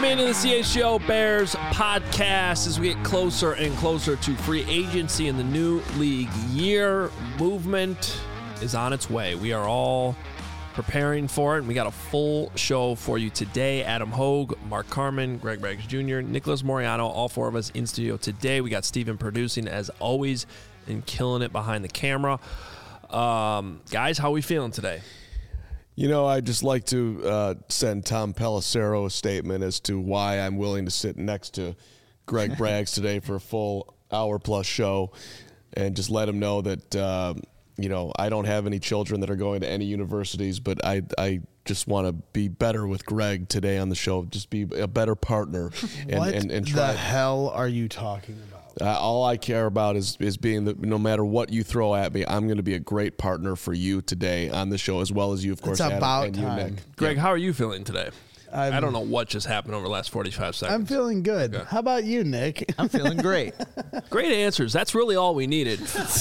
into the CHGO Bears podcast as we get closer and closer to free agency in the new league year. Movement is on its way. We are all preparing for it, and we got a full show for you today. Adam Hogue, Mark Carman, Greg Braggs Jr., Nicholas Moriano, all four of us in studio today. We got Steven producing as always and killing it behind the camera. Guys, how are we feeling today? You know, I'd just like to send Tom Pelissero a statement as to why I'm willing to sit next to Greg Braggs today for a full hour-plus show, and just let him know that, you know, I don't have any children that are going to any universities, but I just want to be better with Greg today on the show, just be a better partner. And try. The hell are you talking about? All I care about is being that no matter what you throw at me, I'm going to be a great partner for you today on the show, as well as you, of course, it's Adam, about and time. you, Nick. Greg, how are you feeling today? I don't know what just happened over the last 45 seconds. I'm feeling good. Okay. How about you, Nick? I'm feeling great. Great answers. That's really all we needed.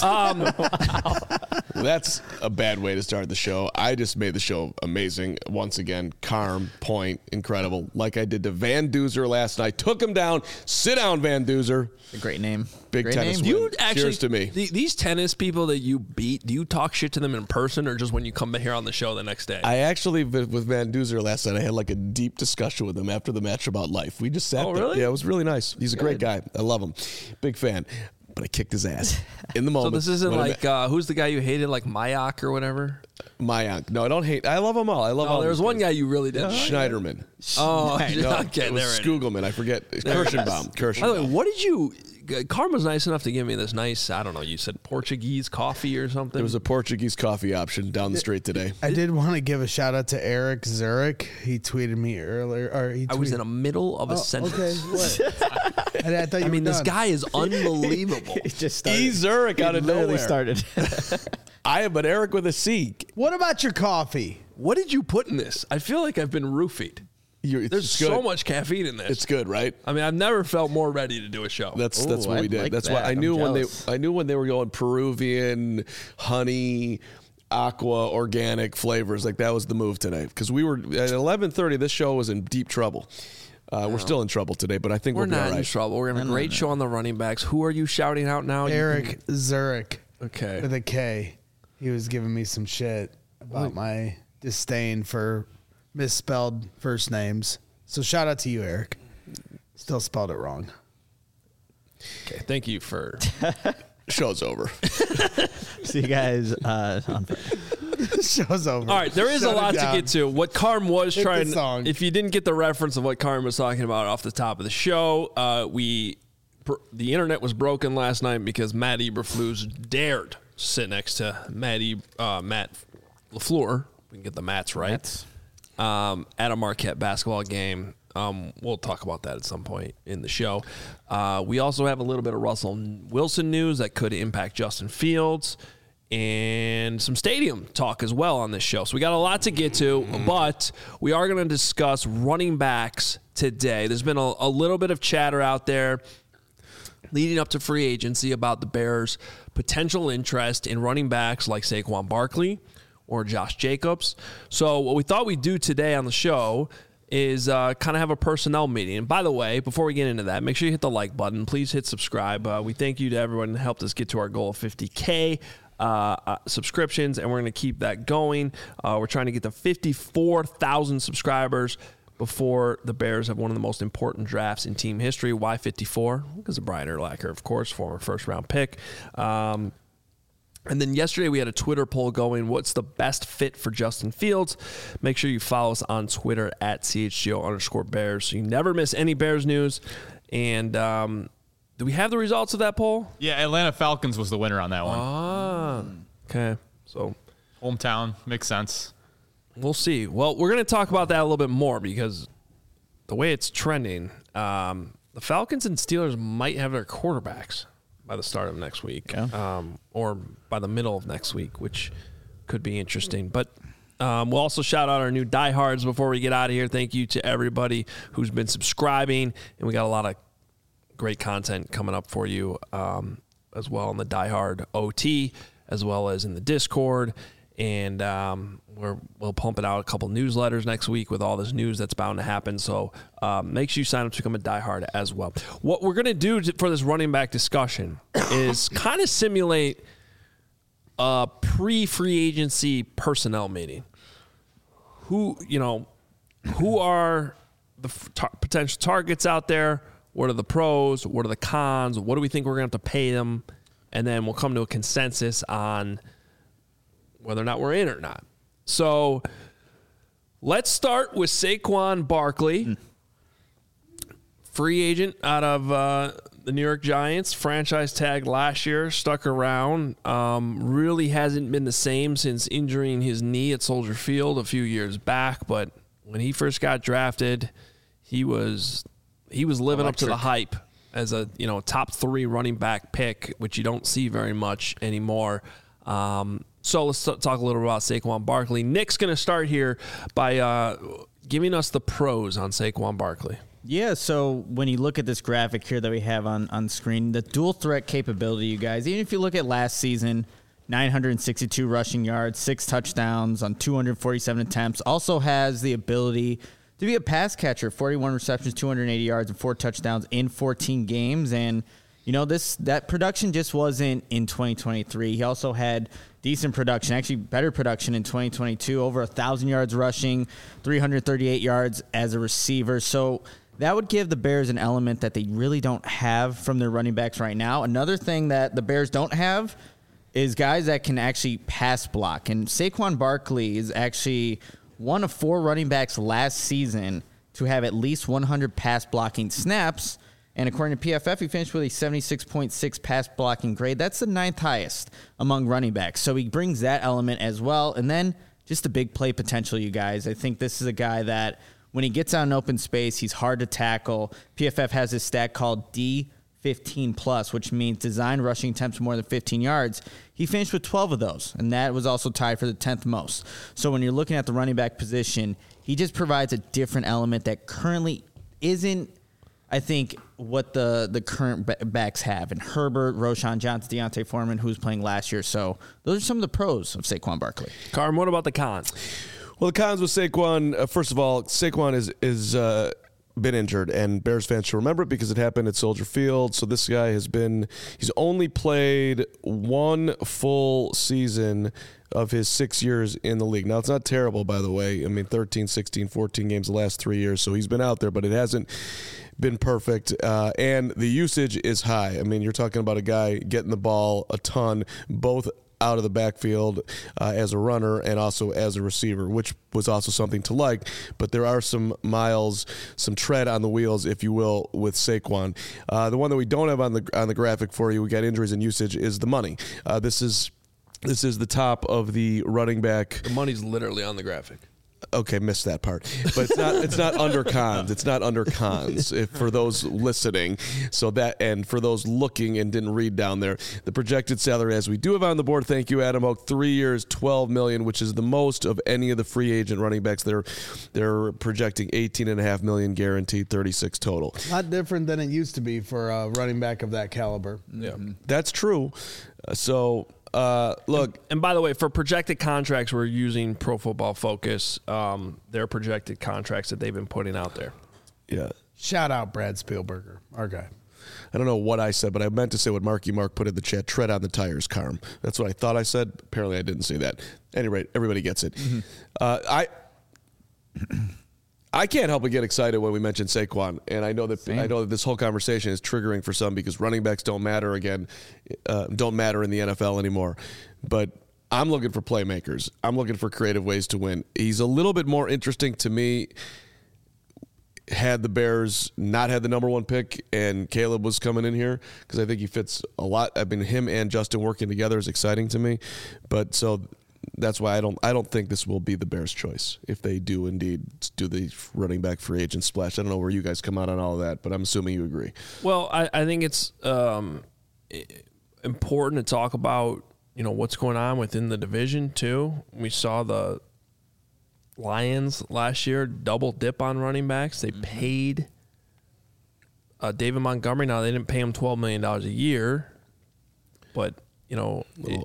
That's a bad way to start the show. I just made the show amazing. Once again, Carm, point, incredible. Like I did to Van Duzer last night. Took him down. Sit down, Van Duzer. A great name. Big great tennis name. win. You actually, Cheers to me. These tennis people that you beat, do you talk shit to them in person or just when you come here on the show the next day? I actually, with Van Duzer last night, I had like a deep discussion with him after the match about life. We just sat there. Really? Yeah, it was really nice. He's a great guy. I love him. Big fan. But I kicked his ass in the So moment. this isn't like, who's the guy you hated, like Mayak or whatever? Mayank. No, I don't hate. I love them all. I love all. Oh, there was these one guys. guy you really didn't. Schneiderman. Oh, No, okay, it was there it is. Skugelman. I forget. Kirschenbaum. By the way, what did you? Karma's nice enough to give me this nice, I don't know, you said Portuguese coffee or something? There was a Portuguese coffee option down the street today. I did want to give a shout out to Eric Zurich. He tweeted me earlier. I was in the middle of a sentence. Okay, what? I thought you were this done. guy is unbelievable. It just started. E. Zurich out of literally nowhere. started. But Eric with a C. What about your coffee? What did you put in this? I feel like I've been roofied. There's so much caffeine in this. It's good, right? I mean, I've never felt more ready to do a show. That's Ooh, what we I'd did. like That's that. why I knew I'm when jealous. they were going Peruvian, honey, aqua, organic flavors. Like that was the move today. Because we were at 11:30. This show was in deep trouble. We're still in trouble today, but I think We're we'll be not all in right. trouble. We're going to have a great show on the running backs. Who are you shouting out now? Eric Zurich Okay. with a K. He was giving me some shit about my disdain for misspelled first names. So shout out to you, Eric. Still spelled it wrong. Okay. Thank you for. Show's over. See you guys on Friday. Show's over. All right, there is Shut a it lot to down. get to. What Carm was Hit the trying. song. If you didn't get the reference of what Carm was talking about off the top of the show, the internet was broken last night because Matt Eberflus dared sit next to Matt LaFleur. We can get the Matts right. At a Marquette basketball game. We'll talk about that at some point in the show. We also have a little bit of Russell Wilson news that could impact Justin Fields and some stadium talk as well on this show. So we got a lot to get to, but we are going to discuss running backs today. There's been a little bit of chatter out there leading up to free agency about the Bears' potential interest in running backs like Saquon Barkley or Josh Jacobs. So what we thought we'd do today on the show is kind of have a personnel meeting. And by the way, before we get into that, make sure you hit the like button. Please hit subscribe. We thank you to everyone who helped us get to our goal of 50K subscriptions, and we're going to keep that going. We're trying to get to 54,000 subscribers before the Bears have one of the most important drafts in team history. Why 54? Because of Brian Urlacher, of course, former first-round pick. And then yesterday we had a Twitter poll going, what's the best fit for Justin Fields? Make sure you follow us on Twitter at CHGO_Bears so you never miss any Bears news. And do we have the results of that poll? Yeah, Atlanta Falcons was the winner on that one. Ah, okay. So Hometown, makes sense. we'll see. Well, we're going to talk about that a little bit more because the way it's trending, the Falcons and Steelers might have their quarterbacks by the start of next week, or by the middle of next week, which could be interesting. But we'll also shout out our new diehards before we get out of here. Thank you to everybody who's been subscribing, and we got a lot of great content coming up for you as well in the diehard OT, as well as in the Discord And we'll pump it out a couple newsletters next week with all this news that's bound to happen. So make sure you sign up to become a diehard as well. What we're going to do for this running back discussion is kind of simulate a pre-free agency personnel meeting. Who are the potential targets out there? What are the pros? What are the cons? What do we think we're going to have to pay them? And then we'll come to a consensus on whether or not we're in or not. So let's start with Saquon Barkley, free agent out of the New York Giants, franchise tag last year, stuck around, really hasn't been the same since injuring his knee at Soldier Field a few years back. But when he first got drafted, he was living up to the hype as a top 3 running back pick, which you don't see very much anymore. So let's talk a little about Saquon Barkley. Nick's going to start here by giving us the pros on Saquon Barkley. Yeah, so when you look at this graphic here that we have on screen, the dual threat capability, you guys, even if you look at last season, 962 rushing yards, 6 touchdowns on 247 attempts, also has the ability to be a pass catcher, 41 receptions, 280 yards, and 4 touchdowns in 14 games. And that production just wasn't in 2023. He also had decent production, actually better production in 2022, over 1,000 yards rushing, 338 yards as a receiver. So that would give the Bears an element that they really don't have from their running backs right now. Another thing that the Bears don't have is guys that can actually pass block. And Saquon Barkley is actually one of 4 running backs last season to have at least 100 pass blocking snaps. And according to PFF, he finished with a 76.6 pass blocking grade. That's the 9th highest among running backs. So he brings that element as well. And then just the big play potential, you guys. I think this is a guy that when he gets out in open space, he's hard to tackle. PFF has this stat called D15+, which means designed rushing attempts more than 15 yards. He finished with 12 of those, and that was also tied for the 10th most. So when you're looking at the running back position, he just provides a different element that currently isn't, I think, what the current backs have. And Herbert, Roschon Johnson, Deontay Foreman, who was playing last year. So those are some of the pros of Saquon Barkley. Carm, what about the cons? Well, the cons with Saquon, first of all, Saquon is been injured, and Bears fans should remember it because it happened at Soldier Field. So this guy he's only played 1 full season of his 6 years in the league. Now, it's not terrible, by the way. I mean, 13, 16, 14 games the last 3 years, so he's been out there, but it hasn't been perfect. And the usage is high. I mean, you're talking about a guy getting the ball a ton, both out of the backfield as a runner and also as a receiver, which was also something to like. But there are some miles, some tread on the wheels, if you will, with Saquon. The one that we don't have on the graphic for you, we got injuries and usage, is the money. This is the top of the running back. The money's literally on the graphic. Okay, missed that part, but it's not under cons. It's not under cons for those listening. So that, and for those looking and didn't read down there, the projected salary, as we do have on the board. Thank you, Adam Hoke. 3 years, $12 million, which is the most of any of the free agent running backs. They're projecting $18.5 million guaranteed, 36 total. Not different than it used to be for a running back of that caliber. Yeah, that's true. Look, and by the way, for projected contracts, we're using Pro Football Focus. Their projected contracts that they've been putting out there. Yeah. Shout out Brad Spielberger, our guy. I don't know what I said, but I meant to say what Marky Mark put in the chat. Tread on the tires, Carm. That's what I thought I said. Apparently, I didn't say that. At any rate, everybody gets it. Mm-hmm. I can't help but get excited when we mention Saquon, and I know that this whole conversation is triggering for some because running backs don't matter in the NFL anymore. But I'm looking for playmakers. I'm looking for creative ways to win. He's a little bit more interesting to me. Had the Bears not had the number 1 pick and Caleb was coming in here, because I think he fits a lot. I mean, him and Justin working together is exciting to me. But so that's why I don't think this will be the Bears' choice if they do indeed do the running back free agent splash. I don't know where you guys come out on all of that, but I'm assuming you agree. Well, I think it's important to talk about what's going on within the division too. We saw the Lions last year double dip on running backs. They paid David Montgomery. Now they didn't pay him $12 million a year, but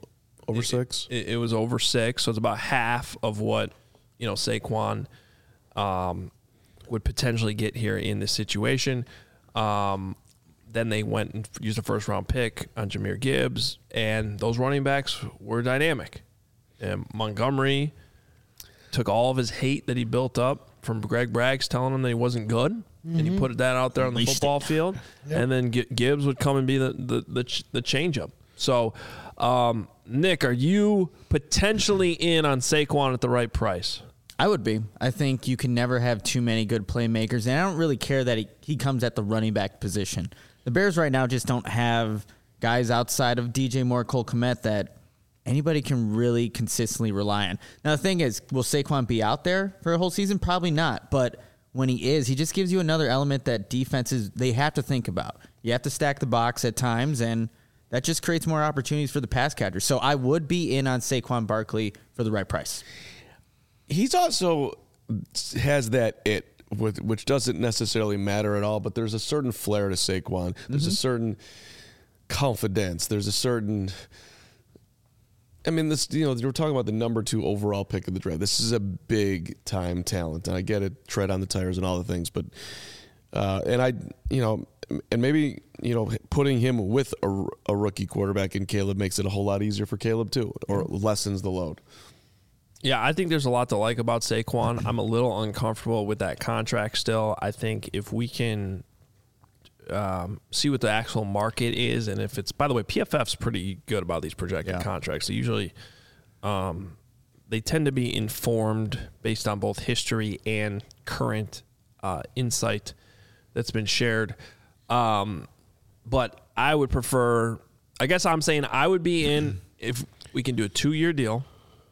Over 6? It was over 6, so it's about half of what Saquon would potentially get here in this situation. Then they went and used a first-round pick on Jahmyr Gibbs, and those running backs were dynamic. And Montgomery took all of his hate that he built up from Greg Braggs telling him that he wasn't good, and he put that out there on the football field. And then Gibbs would come and be the change-up. So, Nick, are you potentially in on Saquon at the right price? I would be. I think you can never have too many good playmakers, and I don't really care that he comes at the running back position. The Bears right now just don't have guys outside of DJ Moore, Cole Kmet that anybody can really consistently rely on. Now, the thing is, will Saquon be out there for a whole season? Probably not, but when he is, he just gives you another element that defenses, they have to think about. You have to stack the box at times, and that just creates more opportunities for the pass catchers. So I would be in on Saquon Barkley for the right price. He's also has that which doesn't necessarily matter at all, but there's a certain flair to Saquon. There's a certain confidence. There's a certain, we're talking about the number 2 overall pick of the draft. This is a big time talent, and I get it, tread on the tires and all the things, but maybe putting him with a rookie quarterback in Caleb makes it a whole lot easier for Caleb too, or lessens the load. Yeah, I think there's a lot to like about Saquon. I'm a little uncomfortable with that contract still. I think if we can see what the actual market is, and if it's, by the way, PFF's pretty good about these projected contracts. They usually, they tend to be informed based on both history and current insight that's been shared. But I would prefer, I guess I'm saying I would be in if we can do a 2-year deal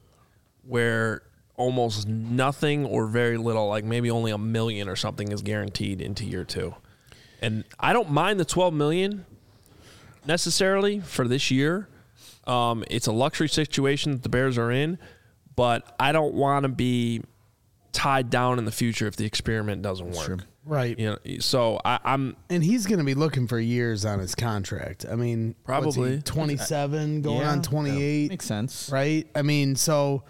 where almost nothing or very little, like maybe only $1 million or something, is guaranteed into year 2. And I don't mind the $12 million necessarily for this year. It's a luxury situation that the Bears are in, but I don't want to be tied down in the future if the experiment doesn't work. Sure. Right. So I'm, and he's going to be looking for years on his contract. I mean, probably 27 going on 28. Makes sense. Right. I mean, so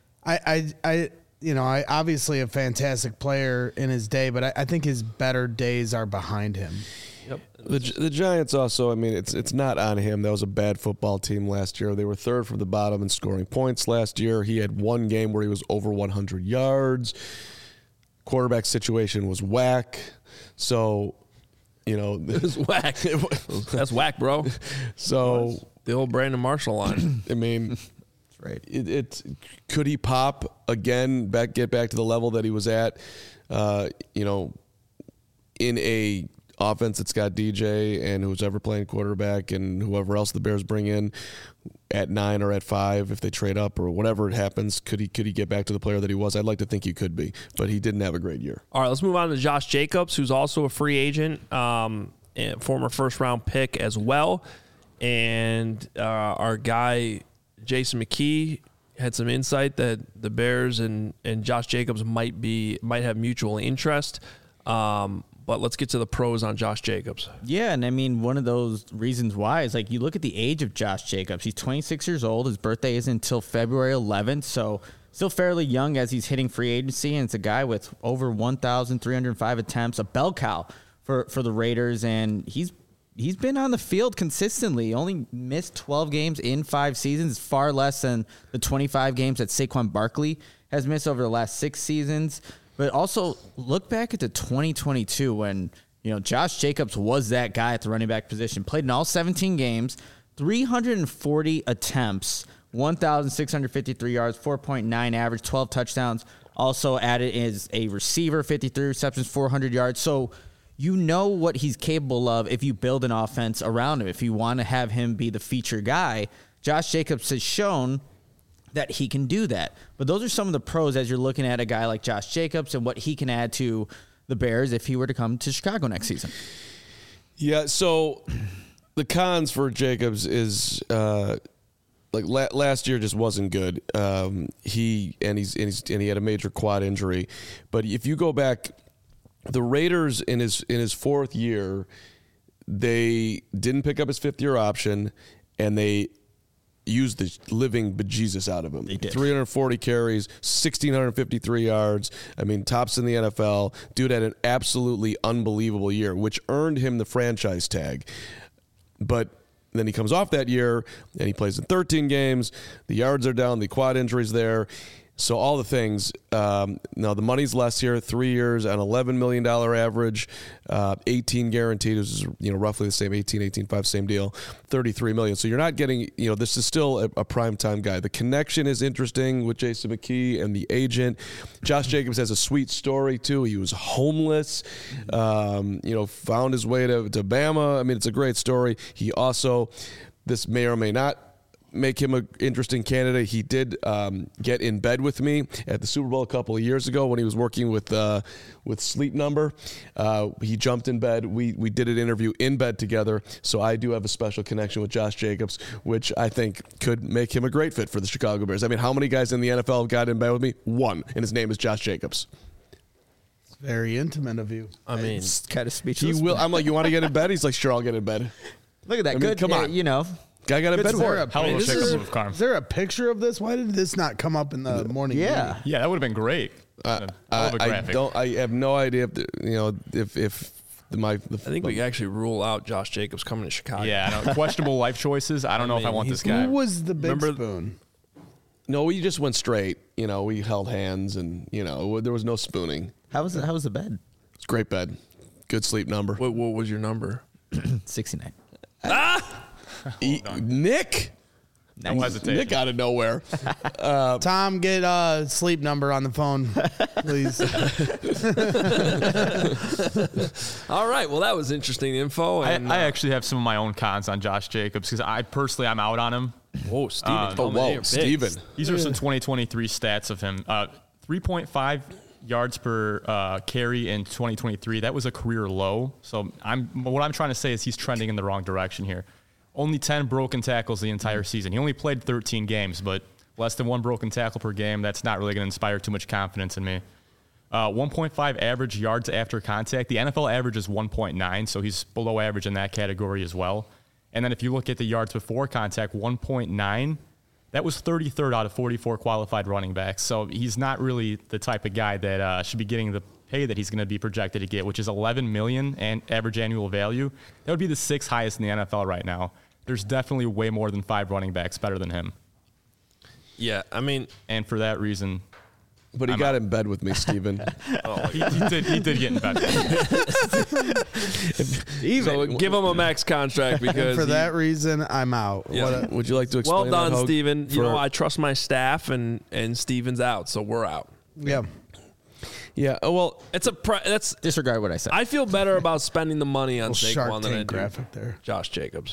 I obviously a fantastic player in his day, but I think his better days are behind him. Yep. The Giants also, it's not on him. That was a bad football team last year. They were 3rd from the bottom in scoring points last year. He had one game where he was over 100 yards. Quarterback situation was whack. So, it was whack. That's whack, bro. So the old Brandon Marshall line. Right. It could he pop again, get back to the level that he was at, in a offense that's got DJ and who's ever playing quarterback and whoever else the Bears bring in at 9 or at 5 if they trade up or whatever it happens. Could he get back to the player that he was? I'd like to think he could be, but he didn't have a great year. All right, let's move on to Josh Jacobs, who's also a free agent, and former first-round pick as well. And our guy Jason McKee had some insight that the Bears and Josh Jacobs might have mutual interest. But let's get to the pros on Josh Jacobs. Yeah, and one of those reasons why is you look at the age of Josh Jacobs. He's 26 years old. His birthday isn't until February 11th, so still fairly young as he's hitting free agency. And it's a guy with over 1,305 attempts, a bell cow for the Raiders, and he's been on the field consistently. He only missed 12 games in 5 seasons, far less than the 25 games that Saquon Barkley has missed over the last 6 seasons. But also look back at the 2022 when, Josh Jacobs was that guy at the running back position, played in all 17 games, 340 attempts, 1,653 yards, 4.9 average, 12 touchdowns. Also added as a receiver, 53 receptions, 400 yards. So you know what he's capable of if you build an offense around him. If you want to have him be the feature guy, Josh Jacobs has shown that he can do that. But those are some of the pros as you're looking at a guy like Josh Jacobs and what he can add to the Bears if he were to come to Chicago next season. Yeah, so the cons for Jacobs is last year just wasn't good. He had a major quad injury. But if you go back, the Raiders in his 4th year, they didn't pick up his 5th-year option, and they used the living bejesus out of him. They did. 340 carries, 1,653 yards. I mean, tops in the NFL. Dude had an absolutely unbelievable year, which earned him the franchise tag. But then he comes off that year, and he plays in 13 games. The yards are down. The quad injury's there. So all the things. Now, the money's less here. 3 years, an $11 million average, 18 guaranteed, which is roughly the same, 18.5, same deal, $33 million. So you're not getting, this is still a primetime guy. The connection is interesting with Jason McKee and the agent. Josh Jacobs has a sweet story, too. He was homeless, found his way to Bama. I mean, it's a great story. He also, this may or may not make him an interesting candidate. He did get in bed with me at the Super Bowl a couple of years ago when he was working with Sleep Number. He jumped in bed. We did an interview in bed together. So I do have a special connection with Josh Jacobs, which I think could make him a great fit for the Chicago Bears. I mean, how many guys in the NFL got in bed with me? One, and his name is Josh Jacobs. It's very intimate of you. I mean, It's kind of He speechless. will. I'm like, you want to get in bed? He's like, sure, I'll get in bed. Look at that. I mean, Good. come on. Guy got in bed with Is there her. a Hell of a picture? pickup move, Carm. Is there a picture of this? Why did this not come up in the morning? Yeah. meeting? Yeah, that would have been great. Hell of a graphic. I have no idea if I think we can actually rule out Josh Jacobs coming to Chicago. Yeah, I know. Questionable life choices. I don't know if I mean, want this Who guy. was the big Remember- spoon? No, we just went straight. We held hands, and there was no spooning. How was the bed? It's a great bed, good sleep number. What was your number? 69. Nick, No hesitation. Nick out of nowhere. Tom, get a sleep number on the phone, please. All right. Well, that was interesting info. And, I actually have some of my own cons on Josh Jacobs because I'm out on him. whoa, Steven. Whoa, Steven. These are some 2023 stats of him. 3.5 yards per carry in 2023. That was a career low. So what I'm trying to say is he's trending in the wrong direction here. Only 10 broken tackles the entire season. He only played 13 games, but less than one broken tackle per game. That's not really going to inspire too much confidence in me. 1.5 average yards after contact. The NFL average is 1.9, so he's below average in that category as well. And then if you look at the yards before contact, 1.9, that was 33rd out of 44 qualified running backs. So he's not really the type of guy that should be getting the pay that he's going to be projected to get, which is $11 million and average annual value. That would be the sixth highest in the NFL right now. There's definitely way more than 5 running backs better than him. Yeah, I mean, And for that reason, But he got in bed with me, Steven. he did get in bed. so give him a max contract because For that reason, I'm out. Yeah. Would you like to explain well done, that, Hogue, Steven. for- I trust my staff, and Steven's out, so we're out. Yeah. Yeah, well, It's that's. Disregard what I said. I feel better about spending the money on Little Shark Saquon than I Tank do graphic there. Josh Jacobs.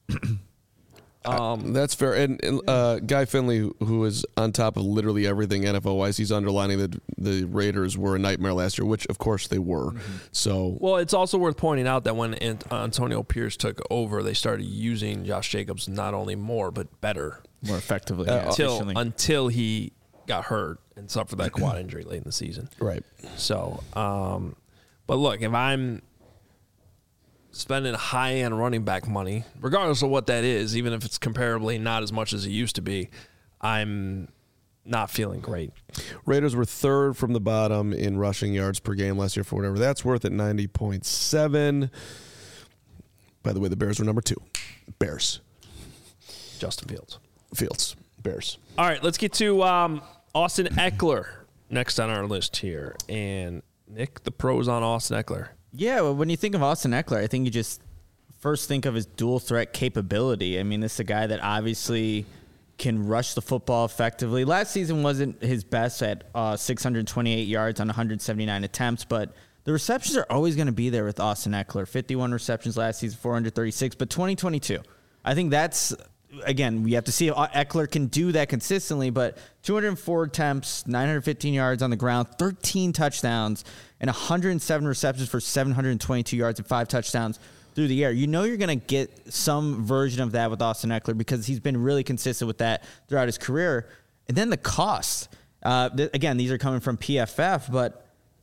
that's fair. And Guy Finley, who is on top of literally everything NFL-wise, he's underlining that the Raiders were a nightmare last year, which, of course, they were. So, Well, it's also worth pointing out that when Antonio Pierce took over, they started using Josh Jacobs not only more but better More effectively. yeah, efficiently. until he got hurt and suffered that quad injury late in the season. right. So, but look, if I'm spending high-end running back money, regardless of what that is, even if it's comparably not as much as it used to be, I'm not feeling great. Raiders were third from the bottom in rushing yards per game last year for whatever that's worth at 90.7. By the way, the Bears were number 2. Bears. Justin Fields. Bears. All right, let's get to Austin Eckler next on our list here. And Nick, the pros on Austin Eckler. Yeah, well, when you think of Austin Eckler, I think you just first think of his dual threat capability. I mean, this is a guy that obviously can rush the football effectively. Last season wasn't his best at 628 yards on 179 attempts, but the receptions are always going to be there with Austin Eckler. 51 receptions last season, 436. But 2022, I think that's, again, we have to see if Eckler can do that consistently, but 204 attempts, 915 yards on the ground, 13 touchdowns, and 107 receptions for 722 yards and 5 touchdowns through the air. You know you're going to get some version of that with Austin Eckler because he's been really consistent with that throughout his career. And then the cost. Again, these are coming from PFF, but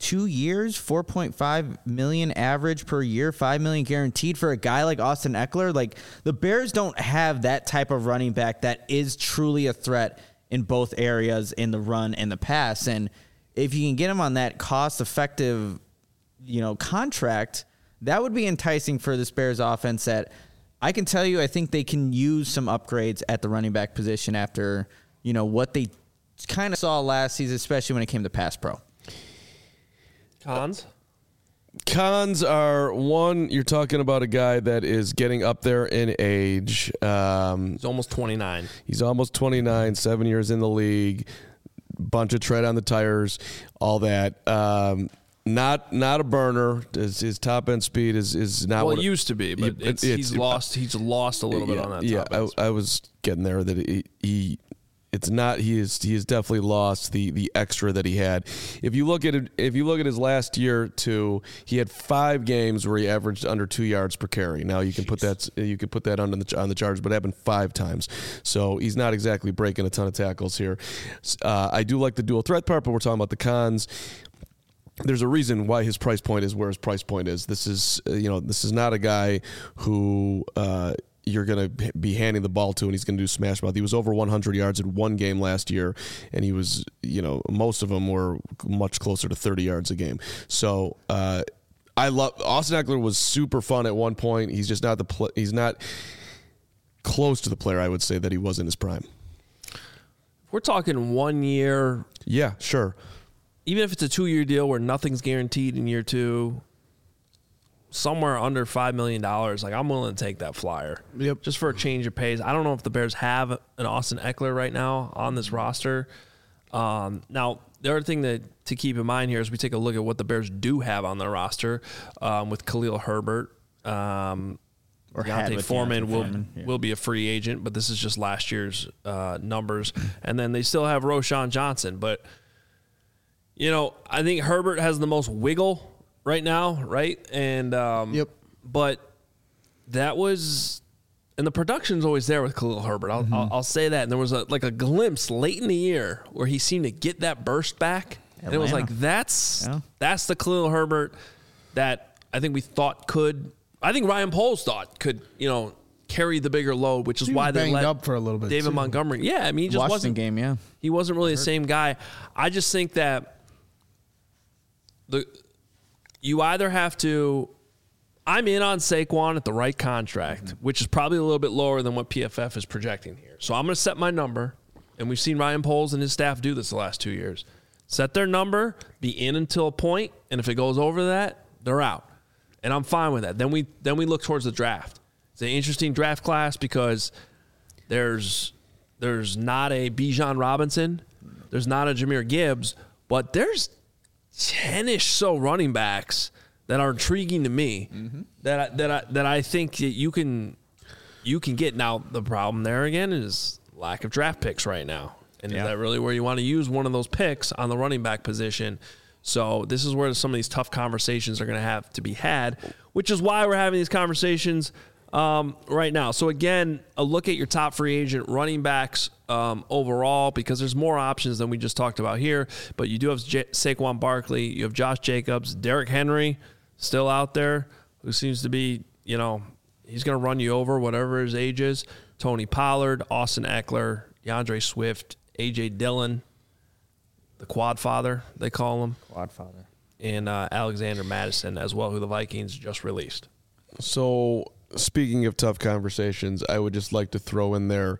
2 years, $4.5 million average per year, $5 million guaranteed for a guy like Austin Eckler. Like, the Bears don't have that type of running back that is truly a threat in both areas, in the run and the pass. And if you can get him on that cost-effective, contract, that would be enticing for this Bears offense. That I can tell you, I think they can use some upgrades at the running back position after, what they kind of saw last season, especially when it came to pass pro. Cons are, one, you're talking about a guy that is getting up there in age. He's almost 29. He's almost 29, 7 years in the league, bunch of tread on the tires, all that. Not a burner. His top end speed is not. Well, what it used to be, but he's lost a little bit on that. Yeah, top end speed. I was getting there that it's not. He is definitely lost the extra that he had. If you look at his last year too, he had 5 games where he averaged under 2 yards per carry. Now you can put that on the charge, but it happened 5 times. So he's not exactly breaking a ton of tackles here. I do like the dual threat part, but we're talking about the cons. There's a reason why his price point is where his price point is. This is not a guy who you're going to be handing the ball to and he's going to do smash mouth. He was over 100 yards in one game last year, and he was, most of them were much closer to 30 yards a game. So I love Austin Eckler. Was super fun at one point. He's just not he's not close to the player I would say that he was in his prime. We're talking 1 year. Yeah, sure. Even if it's a 2-year deal where nothing's guaranteed in year 2, somewhere under $5 million, like, I'm willing to take that flyer. Yep. Just for a change of pace. I don't know if the Bears have an Austin Eckler right now on this roster. Now, the other thing to keep in mind here is we take a look at what the Bears do have on their roster with Khalil Herbert. Deontay Foreman will be a free agent, but this is just last year's numbers. And then they still have Roschon Johnson. But, I think Herbert has the most wiggle right now, right? And Yep. But that was, and the production's always there with Khalil Herbert. I'll say that. And there was a glimpse late in the year where he seemed to get that burst back, and it was like that's the Khalil Herbert that I think we thought could. I think Ryan Poles thought could carry the bigger load, which is why they let up for a little bit. David too. Montgomery. Yeah, I mean, he just Washington wasn't game. Yeah, he wasn't really the same guy. I just think that you either have to. I'm in on Saquon at the right contract, which is probably a little bit lower than what PFF is projecting here. So I'm going to set my number, and we've seen Ryan Poles and his staff do this the last 2 years. Set their number, be in until a point, and if it goes over that, they're out. And I'm fine with that. Then we look towards the draft. It's an interesting draft class because there's not a Bijan Robinson, there's not a Jahmyr Gibbs, but there's 10-ish so running backs that are intriguing to me that I think that you can get. Now the problem there again is lack of draft picks right now, and is that really where you want to use one of those picks on the running back position? So this is where some of these tough conversations are going to have to be had, which is why we're having these conversations right now. So again, a look at your top free agent running backs overall, because there's more options than we just talked about here. But you do have Saquon Barkley, you have Josh Jacobs, Derrick Henry still out there, who seems to be, he's going to run you over whatever his age is. Tony Pollard, Austin Eckler, DeAndre Swift, A.J. Dillon, the quad father, they call him. Quad father. And Alexander Madison as well, who the Vikings just released. So speaking of tough conversations, I would just like to throw in there,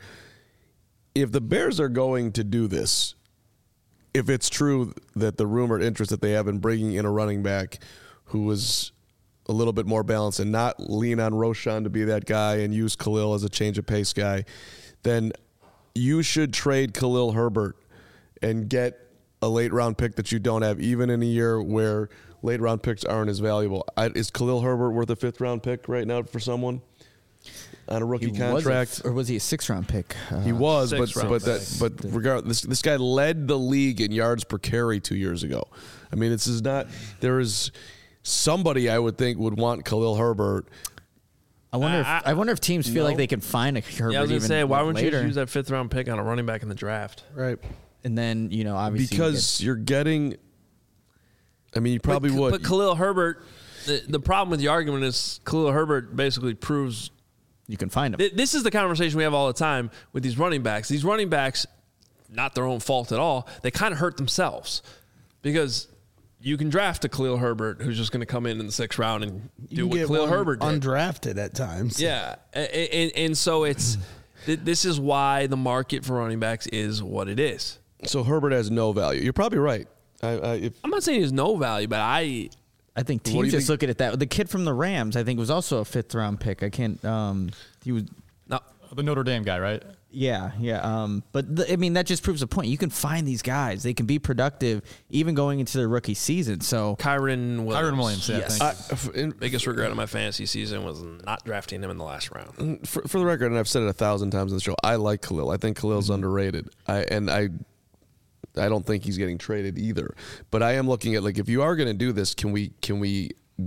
if the Bears are going to do this, if it's true that the rumored interest that they have in bringing in a running back who was a little bit more balanced and not lean on Roschon to be that guy and use Khalil as a change of pace guy, then you should trade Khalil Herbert and get a late round pick that you don't have, even in a year where late round picks aren't as valuable. Is Khalil Herbert worth a 5th round pick right now for someone on a rookie contract? Or was he a 6th round pick? He was, but regardless, this guy led the league in yards per carry 2 years ago. I mean, this is not. There is somebody I would think would want Khalil Herbert. I wonder if teams feel like they can find a Herbert. Yeah, I was going to say, why wouldn't you later? use that 5th round pick on a running back in the draft? Right. And then obviously because you're getting. I mean, you probably would. But Khalil Herbert, the problem with the argument is Khalil Herbert basically proves You can find them. this is the conversation we have all the time with these running backs. These running backs, not their own fault at all, they kind of hurt themselves because you can draft a Khalil Herbert who's just going to come in the 6th round and do what Khalil Herbert did. Undrafted at times. Yeah. And so it's this is why the market for running backs is what it is. So Herbert has no value. You're probably right. I'm not saying there's no value, but I think What do you teams just think? look at it that the kid from the Rams, I think, was also a 5th round pick. I can't. He was. The Notre Dame guy, right? Yeah. But I mean, that just proves a point. You can find these guys; they can be productive even going into their rookie season. So Kyron Williams. Yeah, Yes. thank Biggest regret of my fantasy season was not drafting him in the last round. For the record, and I've said it 1,000 times on the show, I like Khalil. I think Khalil's underrated. I don't think he's getting traded either. But I am looking at, like, if you are going to do this, can we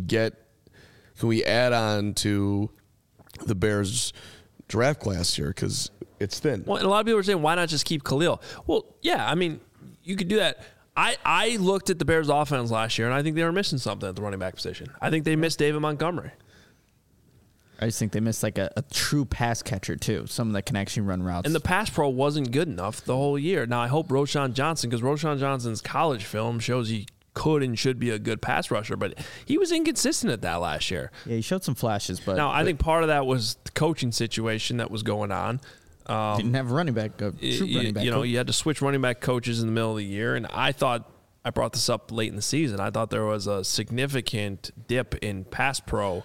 add on to the Bears draft class here, because it's thin. Well, and a lot of people are saying, why not just keep Khalil? Well, yeah, I mean, you could do that. I looked at the Bears' offense last year, and I think they were missing something at the running back position. I think they missed David Montgomery. I just think they missed like a true pass catcher too. Someone that can actually run routes. And the pass pro wasn't good enough the whole year. Now, I hope Roschon Johnson, because Roschon Johnson's college film shows he could and should be a good pass rusher, but he was inconsistent at that last year. Yeah, he showed some flashes, but Now, I think part of that was the coaching situation that was going on. didn't have a running back. True running back. coach. You had to switch running back coaches in the middle of the year, and I thought I brought this up late in the season. I thought there was a significant dip in pass pro.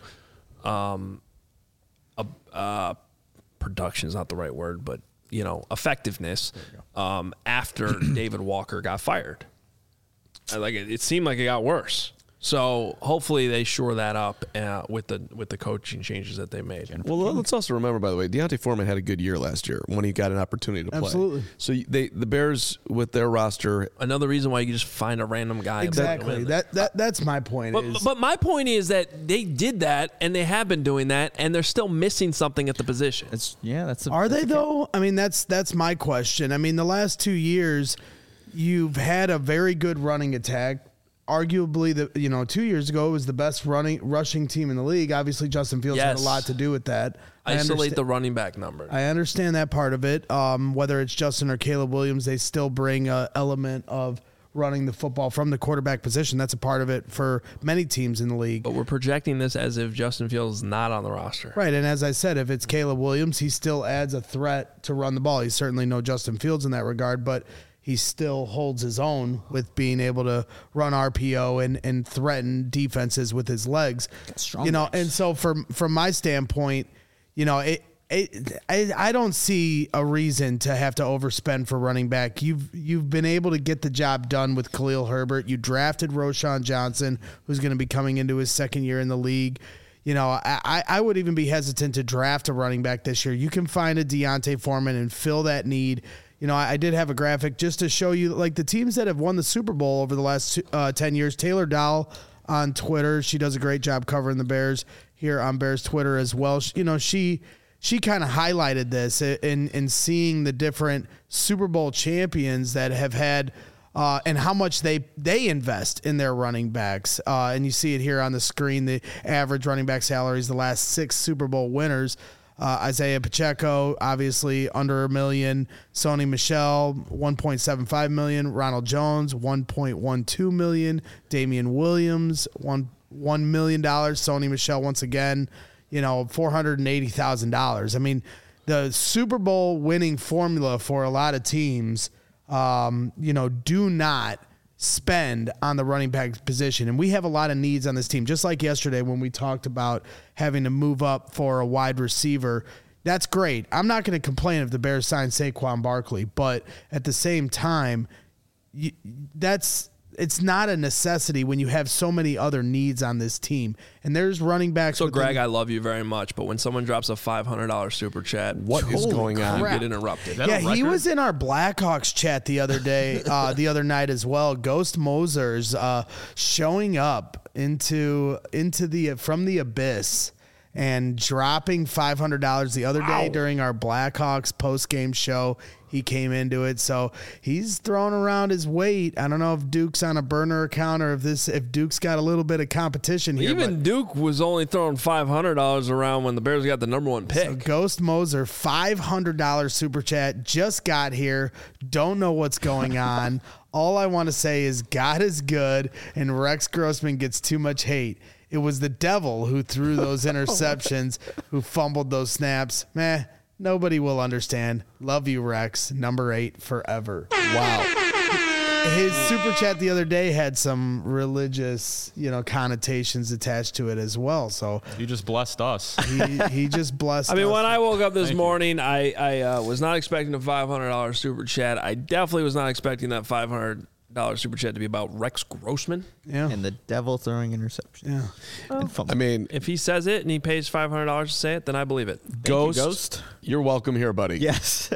Production is not the right word, but effectiveness after David Walker got fired. It seemed like it got worse. So hopefully they shore that up with the coaching changes that they made. Well, let's also remember, by the way, Deontay Foreman had a good year last year when he got an opportunity to play. Absolutely. So the Bears, with their roster, Another reason why you can just find a random guy. And put him Exactly. in there. That's my point. But my point is that they did that, and they have been doing that, and they're still missing something at the position. Are they though? I mean, that's my question. I mean, the last 2 years, you've had a very good running attack. Arguably, 2 years ago, it was the best rushing team in the league. Obviously, Justin Fields had a Yes. lot to do with that. Isolate the running back number. I understand that part of it. Whether it's Justin or Caleb Williams, they still bring an element of running the football from the quarterback position. That's a part of it for many teams in the league. But we're projecting this as if Justin Fields is not on the roster. Right, and as I said, if it's Caleb Williams, he still adds a threat to run the ball. He's certainly no Justin Fields in that regard, but he still holds his own with being able to run RPO and threaten defenses with his legs. Strong legs. legs. And so from my standpoint, I don't see a reason to have to overspend for running back. You've been able to get the job done with Khalil Herbert. You drafted Roschon Johnson, who's going to be coming into his second year in the league. I would even be hesitant to draft a running back this year. You can find a Deontay Foreman and fill that need. I did have a graphic just to show you, like, the teams that have won the Super Bowl over the last 10 years. Taylor Dow on Twitter, she does a great job covering the Bears here on Bears Twitter as well. She kind of highlighted this in seeing the different Super Bowl champions that have had and how much they invest in their running backs. And you see it here on the screen, the average running back salaries, the last 6 Super Bowl winners. Isaiah Pacheco, obviously under $1 million. Sony Michel, $1.75 million. Ronald Jones, $1.12 million. Damian Williams, $1 million. Sony Michel, once again, $480,000. I mean, the Super Bowl winning formula for a lot of teams, do not spend on the running back position. And we have a lot of needs on this team. Just like yesterday when we talked about having to move up for a wide receiver. That's great. I'm not going to complain if the Bears sign Saquon Barkley, but at the same time, it's not a necessity when you have so many other needs on this team. And there's running backs. So, Greg, I love you very much, but when someone drops a $500 super chat, what is going on? You crap. get interrupted. He was in our Blackhawks chat the other day, the other night as well. Ghost Mosers showing up from the abyss and dropping $500 the other day during our Blackhawks post-game show. He came into it, so he's throwing around his weight. I don't know if Duke's on a burner account or if Duke's got a little bit of competition here. Even Duke was only throwing $500 around when the Bears got the number one pick. So Ghost Moser, $500 super chat, just got here. Don't know what's going on. All I want to say is God is good, and Rex Grossman gets too much hate. It was the devil who threw those interceptions, who fumbled those snaps. Meh. Nobody will understand. Love you, Rex. Number 8 forever. Wow. His super chat the other day had some religious, connotations attached to it as well. So You just blessed us. he just blessed. I mean, us. when I woke up this morning, I was not expecting a $500 super chat. I definitely was not expecting that $500 super chat to be about Rex Grossman. Yeah. And the devil throwing interception. Yeah. And fumble. I mean, If he says it and he pays $500 to say it, then I believe it. Ghost, you're welcome here, buddy. Yes.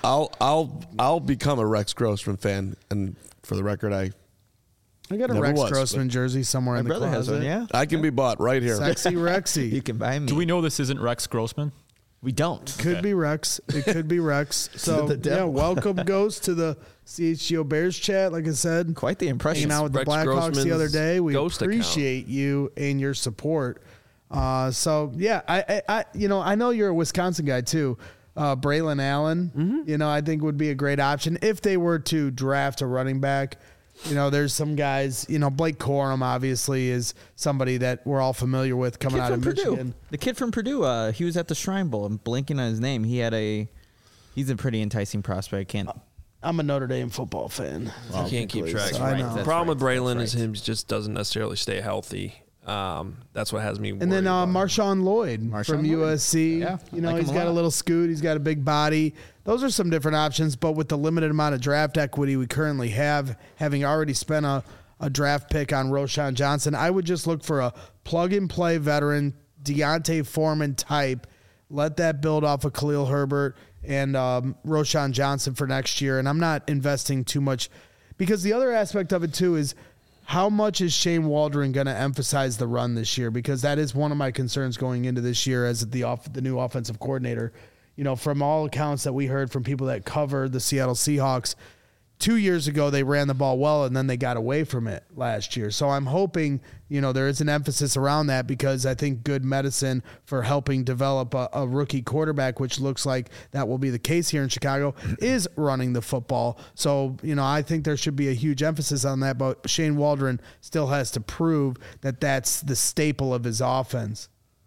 I'll become a Rex Grossman fan, and for the record, I got a Never Rex was, Grossman jersey somewhere My in the brother has closet. one, yeah. can be bought right here. Sexy You Rexy. can buy me. Do we know this isn't Rex Grossman? We don't. Could be Rex. It could be Rex. So, the devil. welcome, Ghost, to the CHGO Bears chat. Like I said, Quite the impression. hanging out with the Rex Blackhawks the other Grossman's day. We Ghost account. appreciate you and your support. So yeah, I know you're a Wisconsin guy too. Braylon Allen, I think would be a great option if they were to draft a running back. There's some guys, Blake Corum obviously is somebody that we're all familiar with coming Kid out from of Purdue. Michigan. The kid from Purdue, he was at the Shrine Bowl. I'm blanking on his name. He's a pretty enticing prospect. I'm a Notre Dame football fan. You can't keep track. so I know. The That's problem with right. Braylon That's is him just doesn't necessarily stay healthy. That's what has me worried. And then about him. Marshawn Lloyd Marshawn from Lloyd. USC. Yeah, I like He's him a got a lot. little scoot. He's got a big body. Those are some different options. But with the limited amount of draft equity we currently have, having already spent a draft pick on Roschon Johnson, I would just look for a plug-and-play veteran, Deontay Foreman type. Let that build off of Khalil Herbert and Roschon Johnson for next year. And I'm not investing too much because the other aspect of it, too, is how much is Shane Waldron going to emphasize the run this year? Because that is one of my concerns going into this year as the new offensive coordinator. From all accounts that we heard from people that cover the Seattle Seahawks, 2 years ago they ran the ball well and then they got away from it last year. So I'm hoping, there is an emphasis around that because I think good medicine for helping develop a rookie quarterback, which looks like that will be the case here in Chicago, is running the football. So, I think there should be a huge emphasis on that, but Shane Waldron still has to prove that that's the staple of his offense.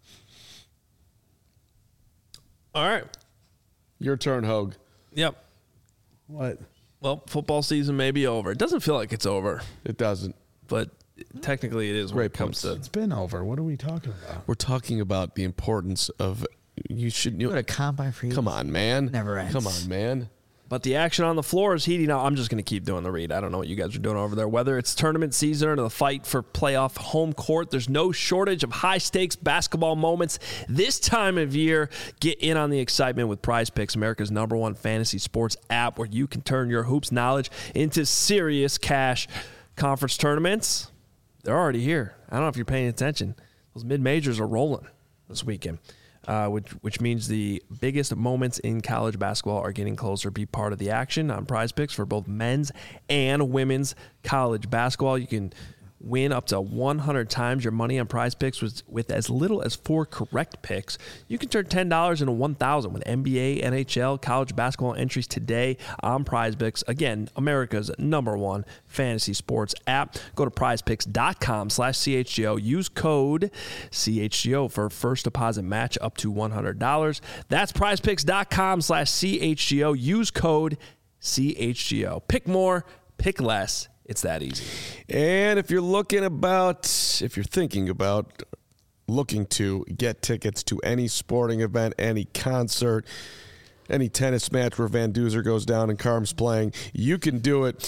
All right. Your turn, Hogue. Yep. What? Well, football season may be over. It doesn't feel like it's over, It doesn't. but technically it is when Great it comes to. It's been over. What are we talking about? We're talking about the importance of you should. What a combine for you. Come on, man. Never ends. Come on, man. But the action on the floor is heating up. I'm just going to keep doing the read. I don't know what you guys are doing over there. Whether it's tournament season or the fight for playoff home court, there's no shortage of high-stakes basketball moments this time of year. Get in on the excitement with Prize Picks, America's #1 fantasy sports app, where you can turn your hoops knowledge into serious cash. Conference tournaments, they're already here. I don't know if you're paying attention. Those mid-majors are rolling this weekend. Which means the biggest moments in college basketball are getting closer. Be part of the action on Prize Picks for both men's and women's college basketball. You can win up to 100 times your money on Prize Picks with as little as 4 correct picks. You can turn $10 into $1,000 with NBA, NHL, college basketball entries today on Prize Picks. Again, America's #1 fantasy sports app. Go to prizepicks.com/CHGO. Use code CHGO for first deposit match up to $100. That's prizepicks.com/CHGO. Use code CHGO. Pick more, pick less. It's that easy. And if you're thinking about looking to get tickets to any sporting event, any concert, any tennis match where Van Duzer goes down and Carm's playing, you can do it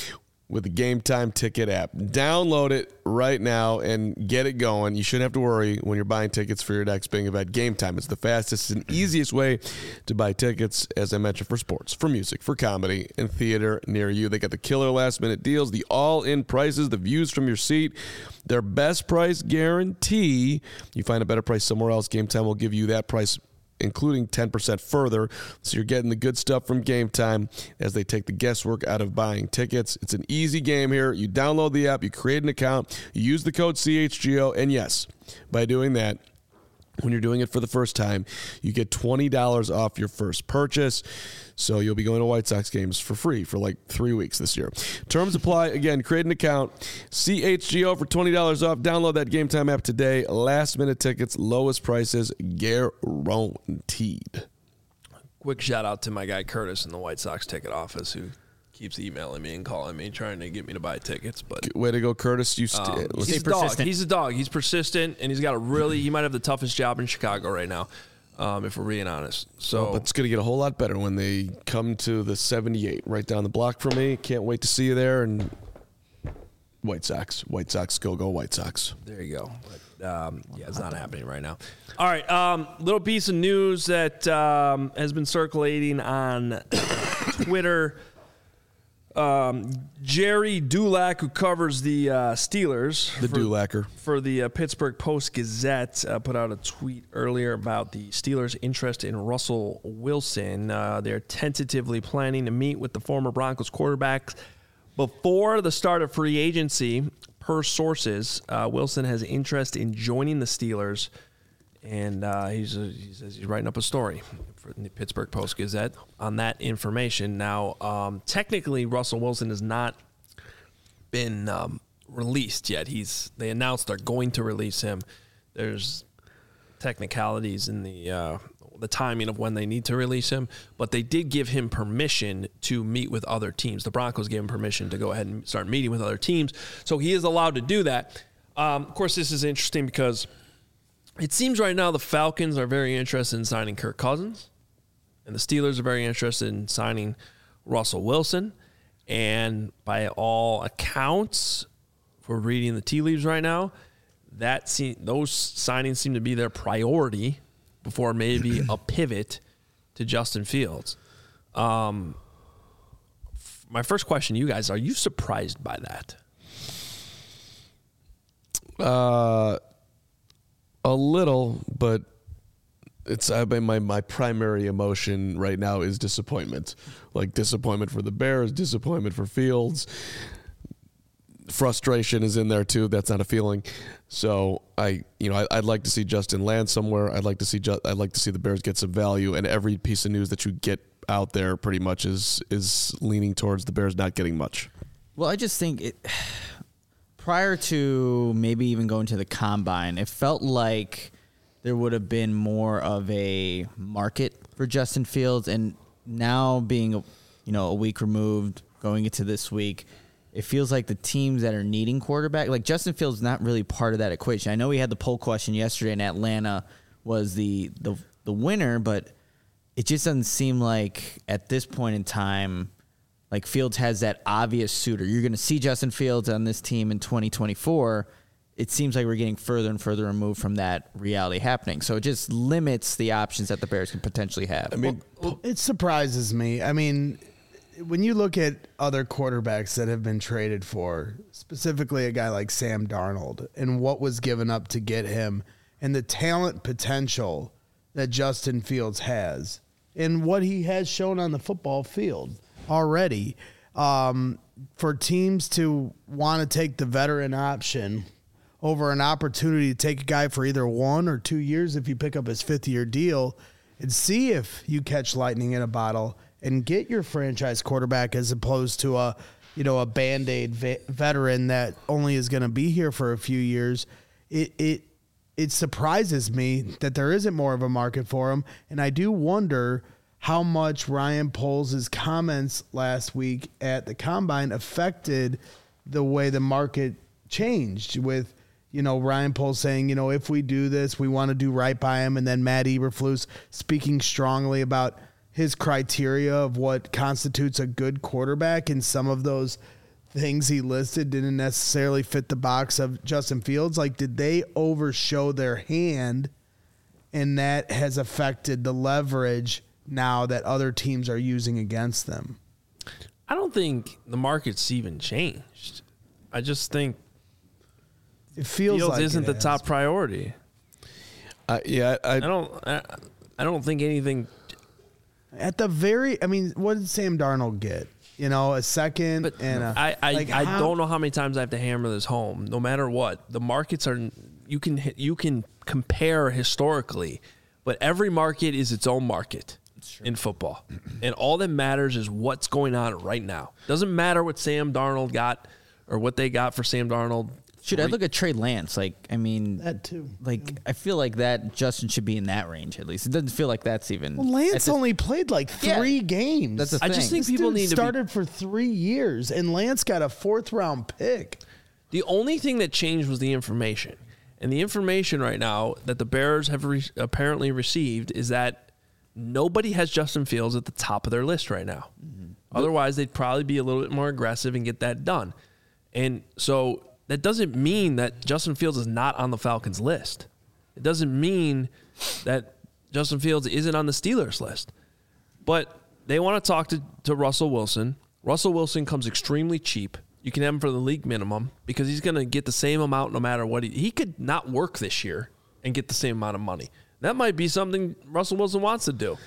with the Game Time Ticket app. Download it right now and get it going. You shouldn't have to worry when you're buying tickets for your next big event. Game Time is the fastest and easiest way to buy tickets, as I mentioned, for sports, for music, for comedy, and theater near you. They got the killer last-minute deals, the all-in prices, the views from your seat, their best price guarantee. You find a better price somewhere else, Game Time will give you that price, including 10% further. So you're getting the good stuff from Game Time as they take the guesswork out of buying tickets. It's an easy game here. You download the app, you create an account, you use the code CHGO, and yes, by doing that, when you're doing it for the first time, you get $20 off your first purchase. So you'll be going to White Sox games for free for like 3 weeks this year. Terms apply. Again, create an account. CHGO for $20 off. Download that Game Time app today. Last minute tickets, lowest prices guaranteed. Quick shout out to my guy Curtis in the White Sox ticket office who keeps emailing me and calling me, trying to get me to buy tickets. But way to go, Curtis! he's a dog. He's a dog. He's persistent, and he's got he might have the toughest job in Chicago right now, if we're being honest. So, but it's going to get a whole lot better when they come to the 78 right down the block from me. Can't wait to see you there. And White Sox, go White Sox. There you go. But, it's not happening right now. All right, little piece of news that has been circulating on Twitter. Jerry Dulac, who covers the Steelers, Dulacker for the Pittsburgh Post-Gazette, put out a tweet earlier about the Steelers' interest in Russell Wilson. They're tentatively planning to meet with the former Broncos quarterback before the start of free agency. Per sources, Wilson has interest in joining the Steelers, and he says he's writing up a story for the Pittsburgh Post-Gazette on that information. Now, technically, Russell Wilson has not been released yet. They announced they're going to release him. There's technicalities in the timing of when they need to release him, but they did give him permission to meet with other teams. The Broncos gave him permission to go ahead and start meeting with other teams, so he is allowed to do that. Of course, this is interesting because it seems right now the Falcons are very interested in signing Kirk Cousins, and the Steelers are very interested in signing Russell Wilson. And by all accounts, if we're reading the tea leaves right now, those signings seem to be their priority before maybe a pivot to Justin Fields. My first question to you guys, are you surprised by that? A little, but my primary emotion right now is disappointment. Like disappointment for the Bears, disappointment for Fields. Frustration is in there too. That's not a feeling. So I'd like to see Justin land somewhere. I'd like to see the Bears get some value, and every piece of news that you get out there pretty much is leaning towards the Bears not getting much. Well, I just think prior to maybe even going to the combine, it felt like there would have been more of a market for Justin Fields, and now being a week removed, going into this week, it feels like the teams that are needing quarterback, like Justin Fields, is not really part of that equation. I know we had the poll question yesterday, and Atlanta was the winner, but it just doesn't seem like at this point in time, like Fields has that obvious suitor. You're going to see Justin Fields on this team in 2024. It seems like we're getting further and further removed from that reality happening. So it just limits the options that the Bears can potentially have. I mean, it surprises me. I mean, when you look at other quarterbacks that have been traded for, specifically a guy like Sam Darnold, and what was given up to get him, and the talent potential that Justin Fields has, and what he has shown on the football field already, for teams to want to take the veteran option over an opportunity to take a guy for either 1 or 2 years if you pick up his 5th-year deal and see if you catch lightning in a bottle and get your franchise quarterback as opposed to a Band-Aid veteran that only is going to be here for a few years. It surprises me that there isn't more of a market for him, and I do wonder how much Ryan Poles' comments last week at the Combine affected the way the market changed with, Ryan Poles saying, if we do this, we want to do right by him. And then Matt Eberflus speaking strongly about his criteria of what constitutes a good quarterback. And some of those things he listed didn't necessarily fit the box of Justin Fields. Like, did they overshow their hand, and that has affected the leverage now that other teams are using against them? I don't think the market's even changed. I just think It feels Fields like isn't it the has. top priority. Yeah, I don't think anything. At the very, I mean, what did Sam Darnold get? You know, a second But and a, I how- don't know how many times I have to hammer this home. No matter what, the markets are. You can compare historically, but every market is its own market in football, and all that matters is what's going on right now. Doesn't matter what Sam Darnold got or what they got for Sam Darnold. Shoot, I look at Trey Lance. Like, I mean, That too. Like, I feel like that Justin should be in that range at least. It doesn't feel like that's even. Well, Lance that's only played like 3 games. That's the I just thing. think people Dude need to be. started for 3 years, and Lance got a 4th-round pick. The only thing that changed was the information. And the information right now that the Bears have apparently received is that nobody has Justin Fields at the top of their list right now. Otherwise, they'd probably be a little bit more aggressive and get that done. And so that doesn't mean that Justin Fields is not on the Falcons list. It doesn't mean that Justin Fields isn't on the Steelers list. But they want to talk to Russell Wilson. Russell Wilson comes extremely cheap. You can have him for the league minimum because he's going to get the same amount no matter what. He could not work this year and get the same amount of money. That might be something Russell Wilson wants to do.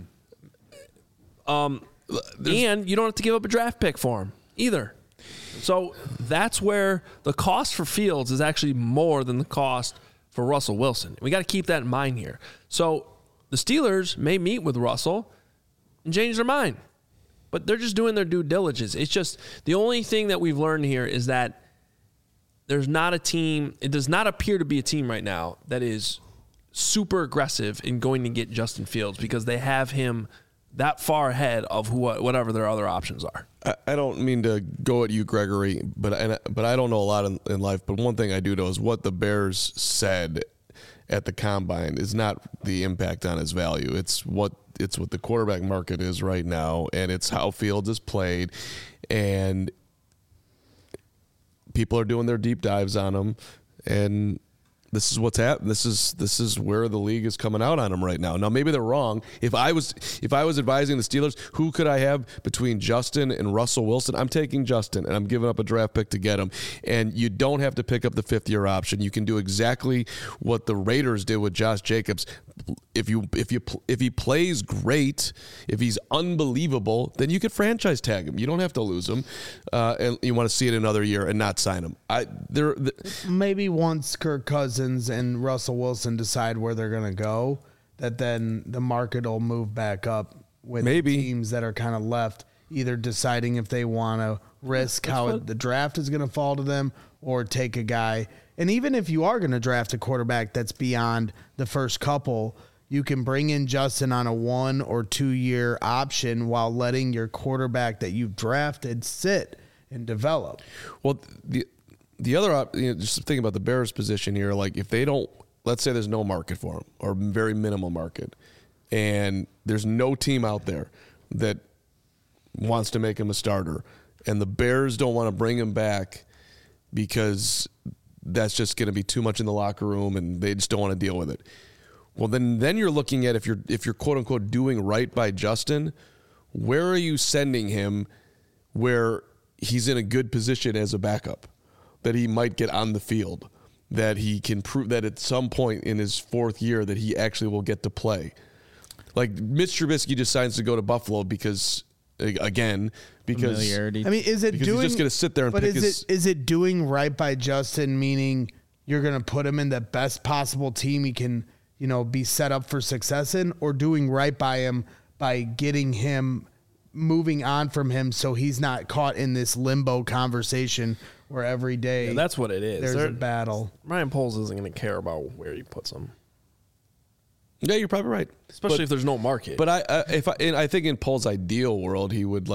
And you don't have to give up a draft pick for him either. So that's where the cost for Fields is actually more than the cost for Russell Wilson. We got to keep that in mind here. So the Steelers may meet with Russell and change their mind, but they're just doing their due diligence. It's just the only thing that we've learned here is that there's not a team. It does not appear to be a team right now that is super aggressive in going to get Justin Fields because they have him that far ahead of whatever their other options are. I don't mean to go at you, Gregory, but I don't know a lot in life. But one thing I do know is what the Bears said at the combine is not the impact on his value. It's what the quarterback market is right now, and it's how Fields is played, and people are doing their deep dives on him, and this is what's happening. This is where the league is coming out on him right now. Now maybe they're wrong. If I was advising the Steelers, who could I have between Justin and Russell Wilson? I'm taking Justin, and I'm giving up a draft pick to get him. And you don't have to pick up the 5th-year option. You can do exactly what the Raiders did with Josh Jacobs. If he plays great, if he's unbelievable, then you could franchise tag him. You don't have to lose him, and you want to see it another year and not sign him. Maybe once Kirk Cousins and Russell Wilson decide where they're going to go, that then the market will move back up with Maybe. teams that are kind of left either deciding if they want to risk how the draft is going to fall to them or take a guy. And even if you are going to draft a quarterback that's beyond the first couple, you can bring in Justin on a 1 or 2 year option while letting your quarterback that you've drafted sit and develop. Well, the other, just thinking about the Bears' position here, like if they don't, let's say there's no market for him or very minimal market, and there's no team out there that wants to make him a starter, and the Bears don't want to bring him back because that's just going to be too much in the locker room and they just don't want to deal with it. Well, then you're looking at if you're quote unquote doing right by Justin, where are you sending him where he's in a good position as a backup, that he might get on the field, that he can prove that at some point in his 4th year that he actually will get to play. Like Mitch Trubisky decides to go to Buffalo because Familiarity. I mean, is it because doing? he's just going to sit there and but pick is it doing right by Justin? Meaning you're going to put him in the best possible team he can, be set up for success in, or doing right by him by getting him moving on from him so he's not caught in this limbo conversation where every day That's what it is. there's a battle. Ryan Poles isn't going to care about where he puts him, Yeah, you're probably right. especially if there's no market. But I think in Paul's ideal world, he would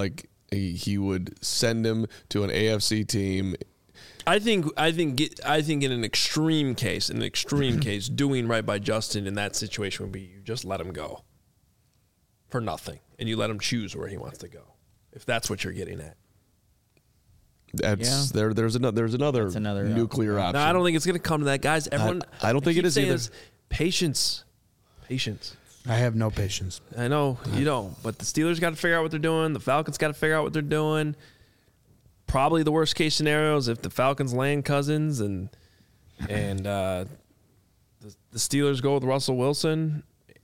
send him to an AFC team. I think in an extreme case, doing right by Justin in that situation would be you just let him go for nothing, and you let him choose where he wants to go, if that's what you're getting at. That's there's another nuclear option. No, I don't think it's going to come to that, guys. Everyone, I don't think it is either. Patience. I have no patience. I know you don't, but the Steelers got to figure out what they're doing. The Falcons got to figure out what they're doing. Probably the worst case scenario is if the Falcons land Cousins and the Steelers go with Russell Wilson.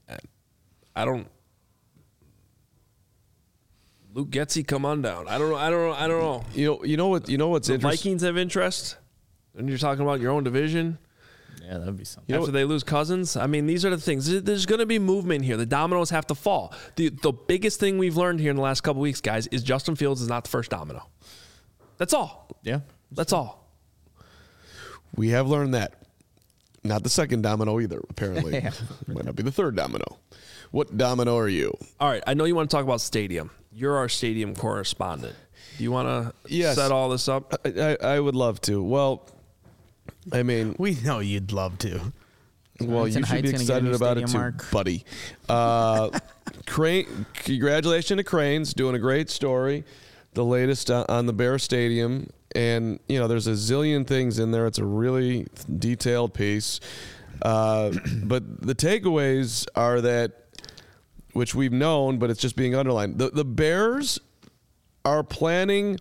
Luke Getsy, come on down. I don't know. You know what's The interesting? Vikings have interest, and you're talking about your own division. Yeah, that'd be something. After they lose Cousins, I mean, these are the things. There's going to be movement here. The dominoes have to fall. The biggest thing we've learned here in the last couple of weeks, guys, is Justin Fields is not the first domino. That's all. Yeah. That's all. We have learned that. Not the second domino either, apparently. Might not be the third domino. What domino are you? All right. I know you want to talk about stadium. You're our stadium correspondent. Do you want to set all this up? I would love to. Well, I mean, We know you'd love to. well, you should be excited about it too, buddy. Crane, congratulations to Cranes, doing a great story. The latest on the Bear Stadium. And, there's a zillion things in there. It's a really detailed piece. But the takeaways are that, which we've known, but it's just being underlined. The Bears are planning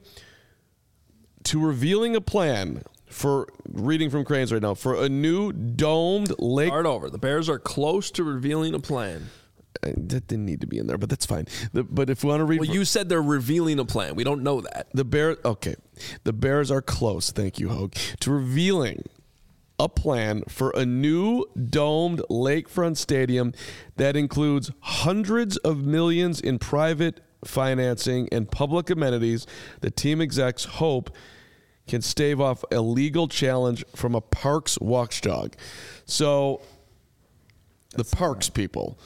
to revealing a plan for, reading from Cranes right now, for a new domed lake. Start over. The Bears are close to revealing a plan. That didn't need to be in there, but that's fine. But if we want to read, Well, you said they're revealing a plan. We don't know that. the Bears are close. Thank you, Hogue, to revealing a plan for a new domed lakefront stadium that includes hundreds of millions in private financing and public amenities. The team execs hope can stave off a legal challenge from a parks watchdog. So the parks people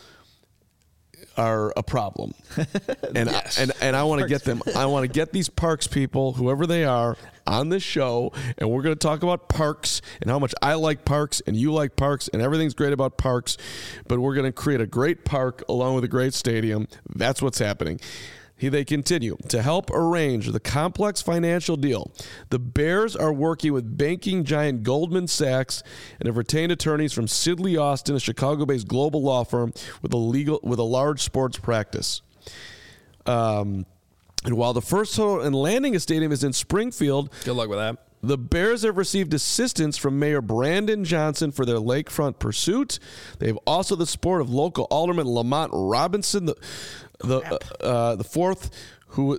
are a problem. And I want to get them. I want to get these parks people, whoever they are, on this show, and we're going to talk about parks and how much I like parks and you like parks and everything's great about parks, but we're going to create a great park along with a great stadium. That's what's happening. They continue to help arrange the complex financial deal. The Bears are working with banking giant Goldman Sachs and have retained attorneys from Sidley Austin, a Chicago-based global law firm with a large sports practice. And while the first total and landing a stadium is in Springfield, Good luck with that. the Bears have received assistance from Mayor Brandon Johnson for their lakefront pursuit. They have also the support of local alderman Lamont Robinson, the fourth who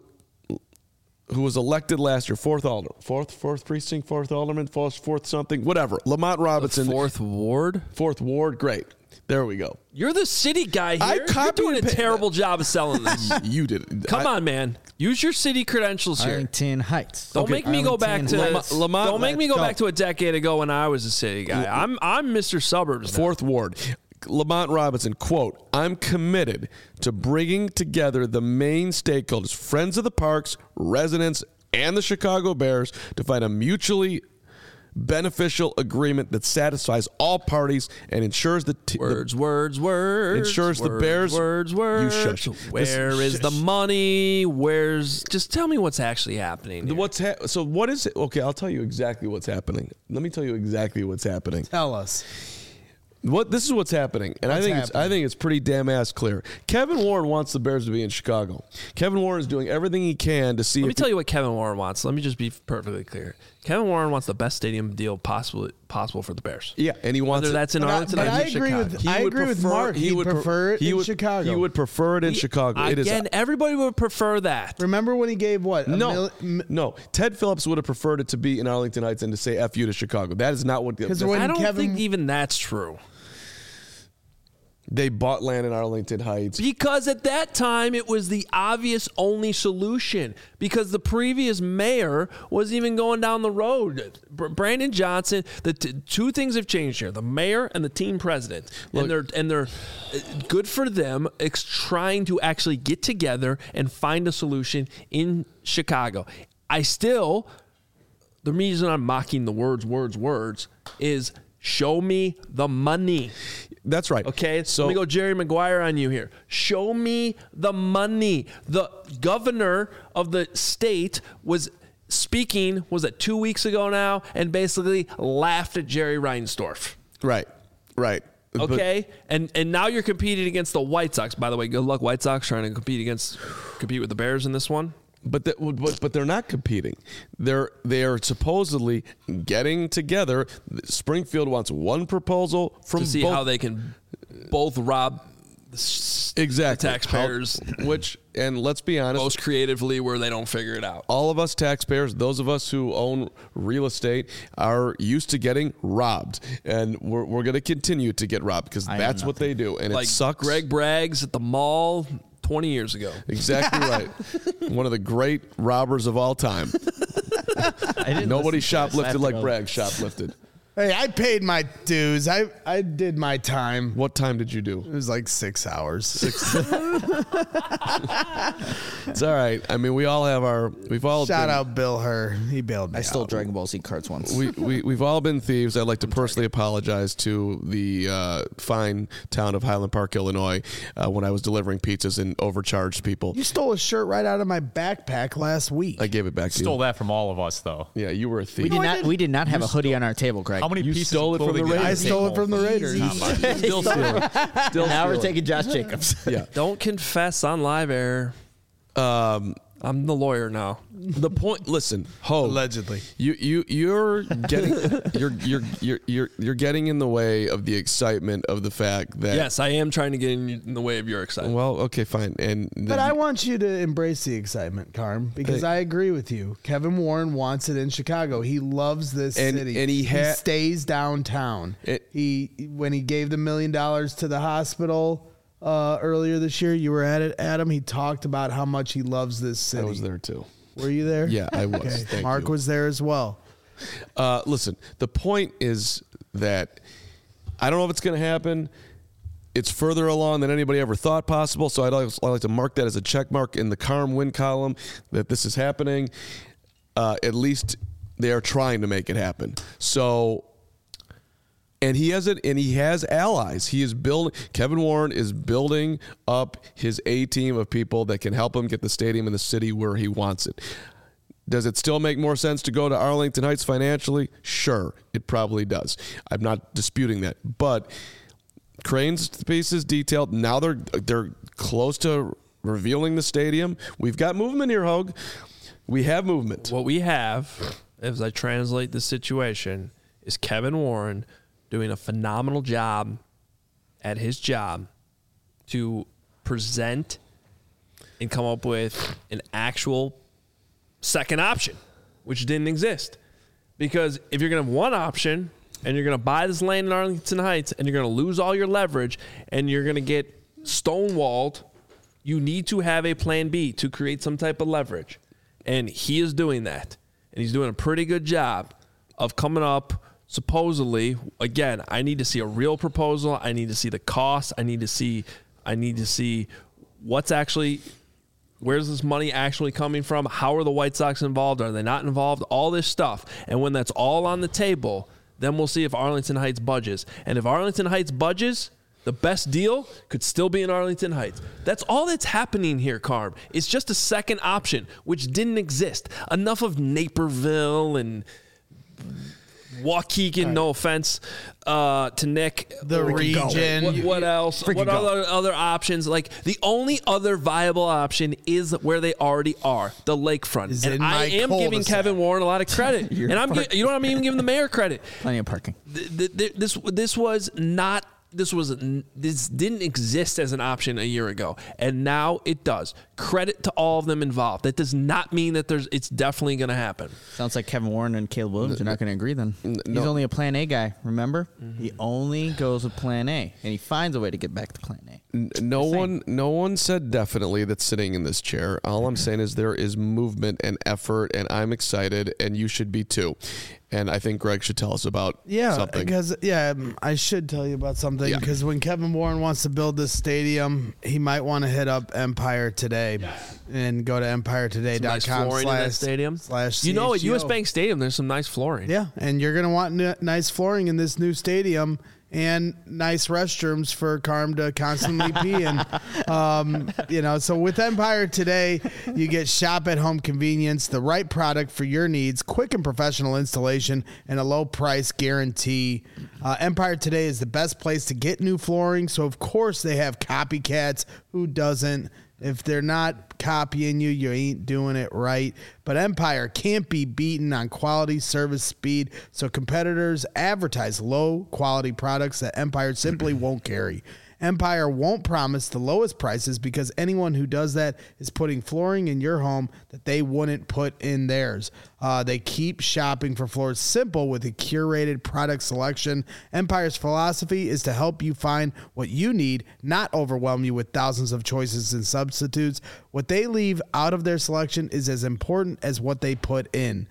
was elected last year, fourth precinct, fourth alderman, fourth something, whatever. Lamont Robinson, Fourth Ward. Great. There we go. You're the city guy here. I You're copied doing a and terrible job of selling this. You did it. Come on, man. Use your city credentials here. Arlington Heights. Don't make me go back to Lamont, don't make me go back to a decade ago when I was a city guy. I'm Mr. Suburbs. Now. Fourth Ward. Lamont Robinson, quote, "I'm committed to bringing together the main stakeholders, friends of the parks, residents, and the Chicago Bears to find a mutually beneficial agreement that satisfies all parties and ensures the Words. ensures the Bears. Words. You shush. Where is the money? Just tell me what's actually happening. Here. So what is it? Okay, I'll tell you exactly what's happening. Let me tell you exactly what's happening. Tell us. This is what's happening, and I think it's pretty damn ass clear. Kevin Warren wants the Bears to be in Chicago. Kevin Warren is doing everything he can to see. Let me tell you what Kevin Warren wants. Let me just be perfectly clear. Kevin Warren wants the best stadium deal possible for the Bears. Yeah, and he wants whether that's in Arlington or Chicago. I agree with Mark. He would prefer it in Chicago. He would prefer it in Chicago. Again, everybody would prefer that. Remember when he gave what? No. Ted Phillips would have preferred it to be in Arlington Heights and to say "F you" to Chicago. That is not what. I don't think even that's true. They bought land in Arlington Heights. Because at that time, it was the obvious only solution. Because the previous mayor wasn't even going down the road. Brandon Johnson, two things have changed here. The mayor and the team president. Look, and they're good for them trying to actually get together and find a solution in Chicago. The reason I'm mocking the words is show me the money. That's right. Okay, so let me go Jerry Maguire on you here. Show me the money. The governor of the state was speaking, was it 2 weeks ago now, and basically laughed at Jerry Reinsdorf. Right. Okay, and now you're competing against the White Sox. By the way, good luck, White Sox, trying to compete with the Bears in this one. But they're not competing. They are supposedly getting together. Springfield wants one proposal from To see both, how they can both rob the taxpayers, and let's be honest, most creatively where they don't figure it out. all of us taxpayers, those of us who own real estate, are used to getting robbed, and we're going to continue to get robbed because that's what they do, and Like it sucks. Greg Braggs at the mall 20 years ago. Exactly right. One of the great robbers of all time. Nobody shoplifted like Bragg shoplifted. Hey, I paid my dues. I did my time. What time did you do? It was like 6 hours. It's all right. I mean, we've all Shout out Bill Herr. He bailed me I stole out. Dragon Ball Z cards once. We've all been thieves. I'd like to personally apologize to the fine town of Highland Park, Illinois, when I was delivering pizzas and overcharged people. You stole a shirt right out of my backpack last week. I gave it back to Stole you. that from all of us, though. Yeah, you were a thief. We did not have a hoodie on our table, Greg. How many You pieces stole of it from the clothing did I Raiders. stole it from the Raiders. Still stealing. Still Now we're stealing. taking Josh Jacobs. Yeah. Don't confess on live air. I'm the lawyer now. The point. Listen, Ho. Allegedly. You're getting you're getting in the way of the excitement of the fact that. Yes, I am trying to get in the way of your excitement. Well, okay, fine. But I want you to embrace the excitement, Carm, because I agree with you. Kevin Warren wants it in Chicago. He loves this city. And he stays downtown. When he gave the $1 million to the hospital earlier this year, you were at it, Adam. He talked about how much he loves this city. I was there too. Were you there? Yeah, I was. Okay. Thank Mark you. was there as well. Listen, the point is that I don't know if it's going to happen. It's further along than anybody ever thought possible. So I'd like to mark that as a check mark in the Carm win column that this is happening. At least they are trying to make it happen. So, and he has allies. He is building. Kevin Warren is building up his A team of people that can help him get the stadium in the city where he wants it. Does it still make more sense to go to Arlington Heights financially? Sure, it probably does. I'm not disputing that. But Crane's piece is detailed. Now they're close to revealing the stadium. We've got movement here, Hogue. We have movement. What we have, as I translate the situation, is Kevin Warren doing a phenomenal job at his job to present and come up with an actual second option, which didn't exist. Because if you're going to have one option and you're going to buy this land in Arlington Heights and you're going to lose all your leverage and you're going to get stonewalled, you need to have a plan B to create some type of leverage. And he is doing that. And he's doing a pretty good job of coming up, supposedly, again, I need to see a real proposal. I need to see the cost. I need to see what's actually, where's this money actually coming from? How are the White Sox involved? Are they not involved? All this stuff. And when that's all on the table, then we'll see if Arlington Heights budges. And if Arlington Heights budges, the best deal could still be in Arlington Heights. That's all that's happening here, Carm. It's just a second option, which didn't exist. Enough of Naperville and Waukegan, no offense to Nick. The region. What else? What other options? Like, the only other viable option is where they already are, the lakefront. Is And in I my am giving cul-de-sac. Kevin Warren a lot of credit. And I'm even giving the mayor credit. Plenty of parking. This didn't exist as an option a year ago, and now it does. Credit to all of them involved. That does not mean that it's definitely going to happen. Sounds like Kevin Warren and Caleb Williams are not going to agree then. He's only a plan A guy, remember? Mm-hmm. He only goes with plan A, and he finds a way to get back to plan A. No one said definitely that's sitting in this chair. All I'm saying is there is movement and effort, and I'm excited, and you should be too. And I think Greg should tell us about something. Because I should tell you about something. Because when Kevin Warren wants to build this stadium, he might want to hit up Empire Today and go to EmpireToday.com. Nice flooring in that stadium. /CHGO. At US Bank Stadium, there's some nice flooring. Yeah, and you're going to want nice flooring in this new stadium. and nice restrooms for Carm to constantly pee in. So with Empire today, you get shop at home convenience, the right product for your needs, quick and professional installation, and a low price guarantee. Empire today is the best place to get new flooring. So of course they have copycats. Who doesn't? If they're not copying you, you ain't doing it right. But Empire can't be beaten on quality, service, speed. So competitors advertise low quality products that Empire simply won't carry. Empire won't promise the lowest prices because anyone who does that is putting flooring in your home that they wouldn't put in theirs. They keep shopping for floors simple with a curated product selection. Empire's philosophy is to help you find what you need, not overwhelm you with thousands of choices and substitutes. What they leave out of their selection is as important as what they put in.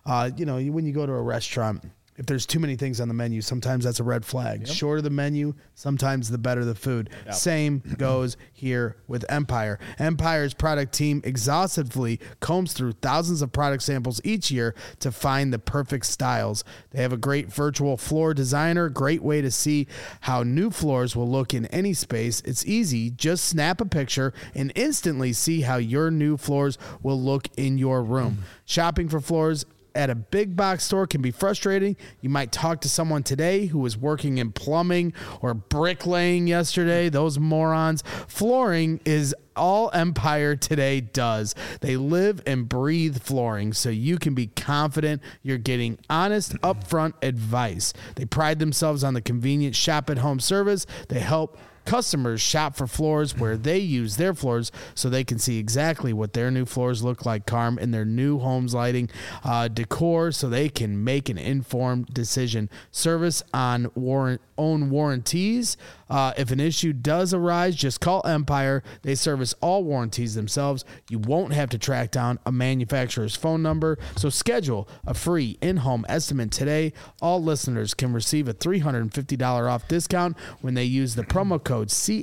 When you go to a restaurant, if there's too many things on the menu, sometimes that's a red flag. Yep. Shorter the menu, sometimes the better the food. Yep. Same goes here with Empire. Empire's product team exhaustively combs through thousands of product samples each year to find the perfect styles. They have a great virtual floor designer, great way to see how new floors will look in any space. It's easy. Just snap a picture and instantly see how your new floors will look in your room. Shopping for floors at a big box store can be frustrating. You might talk to someone today who was working in plumbing or bricklaying yesterday. Those morons. Flooring is all Empire today does. They live and breathe flooring, so you can be confident you're getting honest, upfront advice. They pride themselves on the convenient shop-at-home service. They help customers shop for floors where they use their floors so they can see exactly what their new floors look like, Carm, in their new home's lighting, decor, so they can make an informed decision. Service on own warranties. If an issue does arise, just call Empire. They service all warranties themselves. You won't have to track down a manufacturer's phone number. So schedule a free in-home estimate today. All listeners can receive a $350 off discount when they use the promo code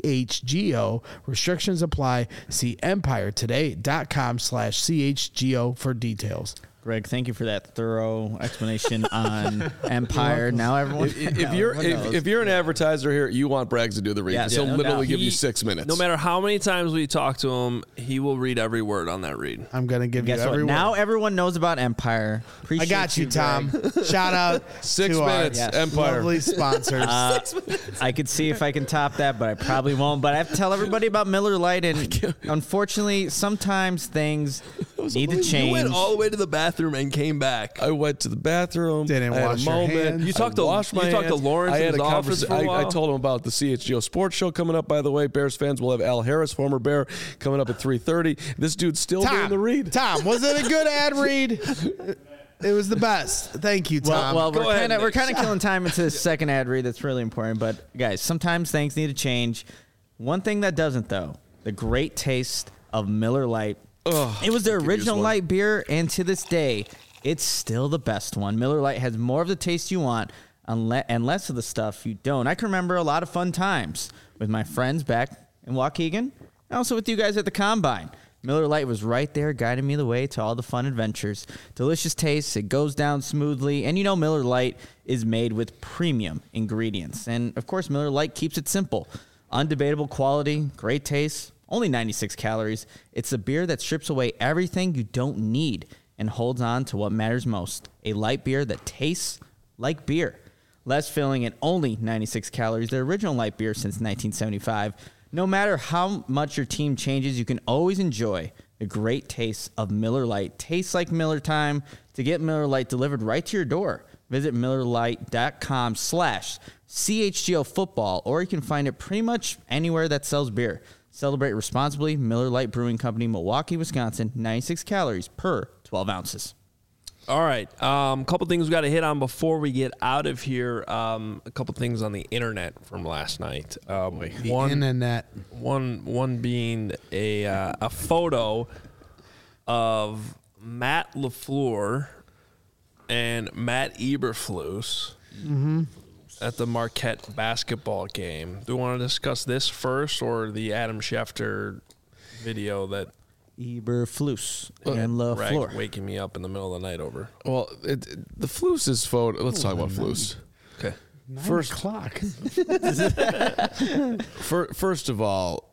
CHGO. Restrictions apply. See empiretoday.com/CHGO for details. Greg, thank you for that thorough explanation on Empire. Now everyone, if you're an advertiser here, you want Braggs to do the read. Yes, He'll no literally doubt. give you 6 minutes. No matter how many times we talk to him, he will read every word on that read. I'm going to give you guess every what? word. Now everyone knows about Empire. Appreciate I got you, Tom. Greg. Shout out 6 to minutes, our Empire. lovely sponsors. I could see if I can top that, but I probably won't. But I have to tell everybody about Miller Lite, and unfortunately, sometimes things need to change. You went all the way to the bathroom and came back. I went to the bathroom. Didn't I had wash a your moment. hands. You talked to washed my Lawrence I in had his a office for a I while? told him about the CHGO Sports Show coming up, by the way. Bears fans will have Al Harris, former Bear, coming up at 3:30. This dude's still doing the read. Tom, was it a good ad read? It was the best. Thank you, Tom. Well, Go ahead, we're Nick. kind of killing time into the second ad read. That's really important. But guys, sometimes things need to change. One thing that doesn't, though, the great taste of Miller Lite. It was the original light beer, and to this day, it's still the best one. Miller Lite has more of the taste you want and less of the stuff you don't. I can remember a lot of fun times with my friends back in Waukegan, and also with you guys at the Combine. Miller Lite was right there guiding me the way to all the fun adventures. Delicious taste, it goes down smoothly, and Miller Lite is made with premium ingredients. And, of course, Miller Lite keeps it simple. Undebatable quality, great taste, only 96 calories. It's a beer that strips away everything you don't need and holds on to what matters most. A light beer that tastes like beer. Less filling and only 96 calories. The original light beer since 1975. No matter how much your team changes, you can always enjoy the great taste of Miller Lite. Tastes like Miller time. To get Miller Lite delivered right to your door, visit MillerLite.com/CHGO football, or you can find it pretty much anywhere that sells beer. Celebrate responsibly. Miller Lite Brewing Company, Milwaukee, Wisconsin. 96 calories per 12 ounces. All right. A couple things we got to hit on before we get out of here. A couple things on the internet from last night. Internet. One being a photo of Matt LaFleur and Matt Eberflus at the Marquette basketball game. Do you want to discuss this first or the Adam Schefter video that Eberflus and Bragg LaFleur? waking me up in the middle of the night over? Well, the Flus is photo. Let's talk about Flus. Okay. First o'clock. First of all,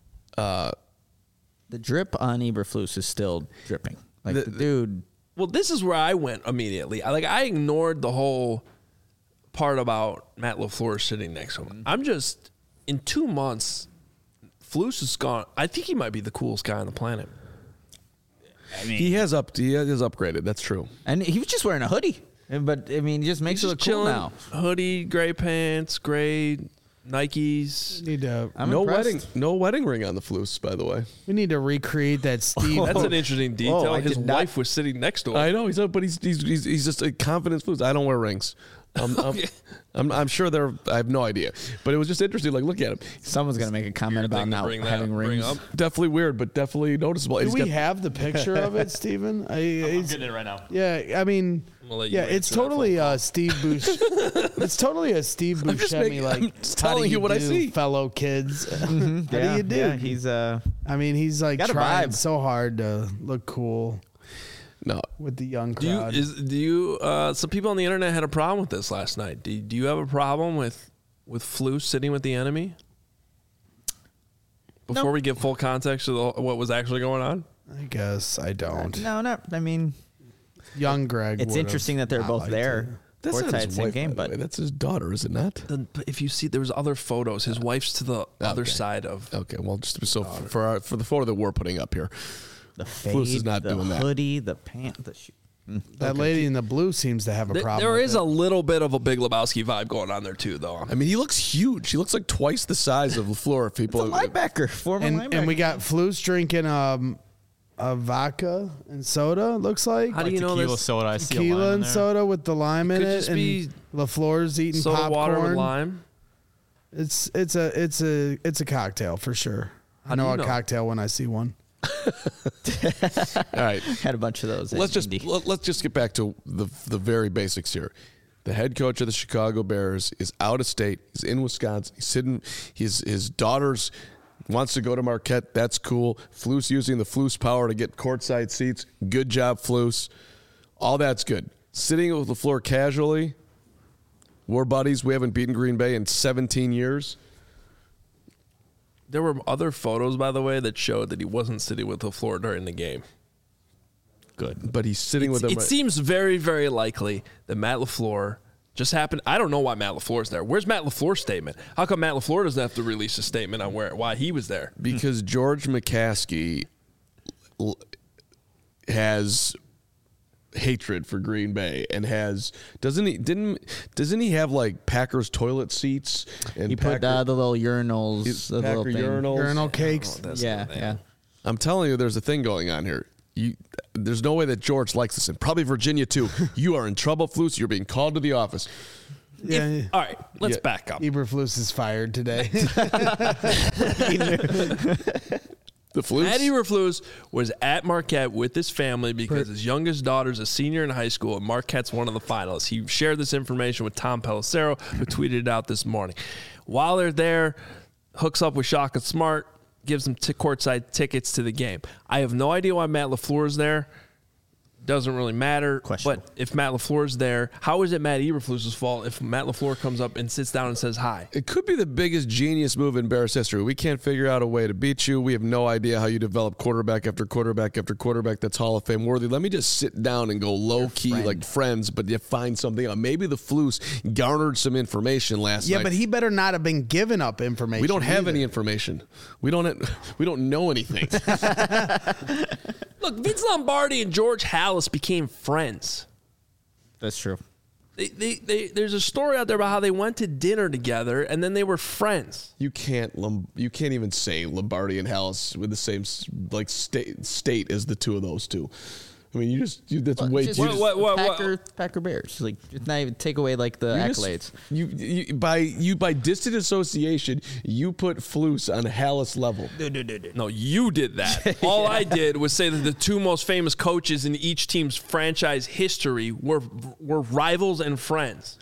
The drip on Eberflus is still dripping. Like the dude. Well, this is where I went immediately. I ignored the whole part about Matt LaFleur sitting next to him. I'm just, in 2 months, Flus is gone. I think he might be the coolest guy on the planet. he has upgraded. That's true. And he was just wearing a hoodie. But, I mean, he just makes He's it look just cool chilling. now. Hoodie, gray pants, gray Nikes. Need to. I'm No impressed. wedding ring on the Flus, by the way. We need to recreate that Steve. That's an interesting detail. Whoa, I His did not- wife was sitting next to him. I know but he's just a confident Flus. I don't wear rings. I'm sure I have no idea, but it was just interesting. Like, look at him. Someone's going to make a comment about thing to not bring that- having bring rings. up. Definitely weird, but definitely noticeable. Do He's we got- have the picture of it, Steven? I'm It's, getting it right now. yeah, I mean, gonna let you yeah, it's answer that totally phone Steve Buscemi. It's totally a Steve I'm just Buscemi. making- Like, I'm just how do telling you what I do, see. fellow kids. How do you do? Yeah, he's I mean, he's like Got a trying vibe. so hard to look cool no. with the young Do you, crowd. some people on the internet had a problem with this last night. Do you have a problem with Flus sitting with the enemy? Before we give full context to what was actually going on? I guess I don't. no, not. I mean, Young Greg. it's would've interesting that they're not both liked there. it. That's not Courtside, his same wife, game, by the but way. That's his daughter, is it not? Then, but if you see, there was other photos. His wife's to the other Okay. side of. Okay, well, just so for the photo that we're putting up here, the fade, Flus is not the doing that. hoodie, the pant, the shoe. That lady in the blue seems to have a problem. There with is it. a little bit of a Big Lebowski vibe going on there too, though. I mean, he looks huge. He looks like twice the size of LaFleur. If people, Linebacker, former linebacker. and we got Flus drinking a vodka and soda. Looks like How do you know Tequila this? soda. I see a lime tequila in and there. soda with the lime in could it, just and be LaFleur's eating Soda popcorn. water with lime. It's a cocktail for sure. I do know you a know? cocktail when I see one. all right, had a bunch of those. let's just get back to the very basics here. The head coach of the Chicago Bears is out of state. He's in Wisconsin. He's sitting. His daughter's wants to go to Marquette. That's cool. Flus using the Flus power to get courtside seats. Good job, Flus. All that's good. Sitting with LaFleur casually. We're buddies. We haven't beaten Green Bay in 17 years. There were other photos, by the way, that showed that he wasn't sitting with LaFleur during the game. Good. But he's sitting with him. It seems very, very likely that Matt LaFleur just happened. I don't know why Matt LaFleur's there. Where's Matt LaFleur's statement? How come Matt LaFleur doesn't have to release a statement on why he was there? because George McCaskey has hatred for Green Bay and doesn't he have like Packers toilet seats and he put the little urinals, the Packer little thing. urinals. Urinal cakes. Yeah. I'm telling you, there's a thing going on here. There's no way that George likes this, and probably Virginia too. You are in trouble, Flus. You're being called to the office. Yeah, All right, let's Yeah. back up. Eberflus is fired today. The Flus. Matt Eberflus was at Marquette with his family because his youngest daughter's a senior in high school, and Marquette's one of the finalists. He shared this information with Tom Pelissero, who tweeted it out this morning. While they're there, hooks up with Shaka Smart, gives them courtside tickets to the game. I have no idea why Matt LaFleur is there. Doesn't really matter. Questionable. But if Matt LaFleur is there, how is it Matt Eberflus's fault if Matt LaFleur comes up and sits down and says hi? It could be the biggest genius move in Bears history. We can't figure out a way to beat you. We have no idea how you develop quarterback after quarterback after quarterback that's Hall of Fame worthy. Let me just sit down and go low key friend. like friends, but you find something out. Maybe the Flus garnered some information last night. Yeah, but he better not have been giving up information. We don't have either. any information. We don't know anything. Look, Vince Lombardi and George Halas became friends. That's true. There's a story out there about how they went to dinner together and then they were friends. You can't even say Lombardi and Hallis with the same like state as the two of those two. I mean, that's way Just too. Packer Bears. Like, just not even take away like the accolades. By distant association, you put Flus on Hallis level. No, you did that. All I did was say that the two most famous coaches in each team's franchise history were rivals and friends.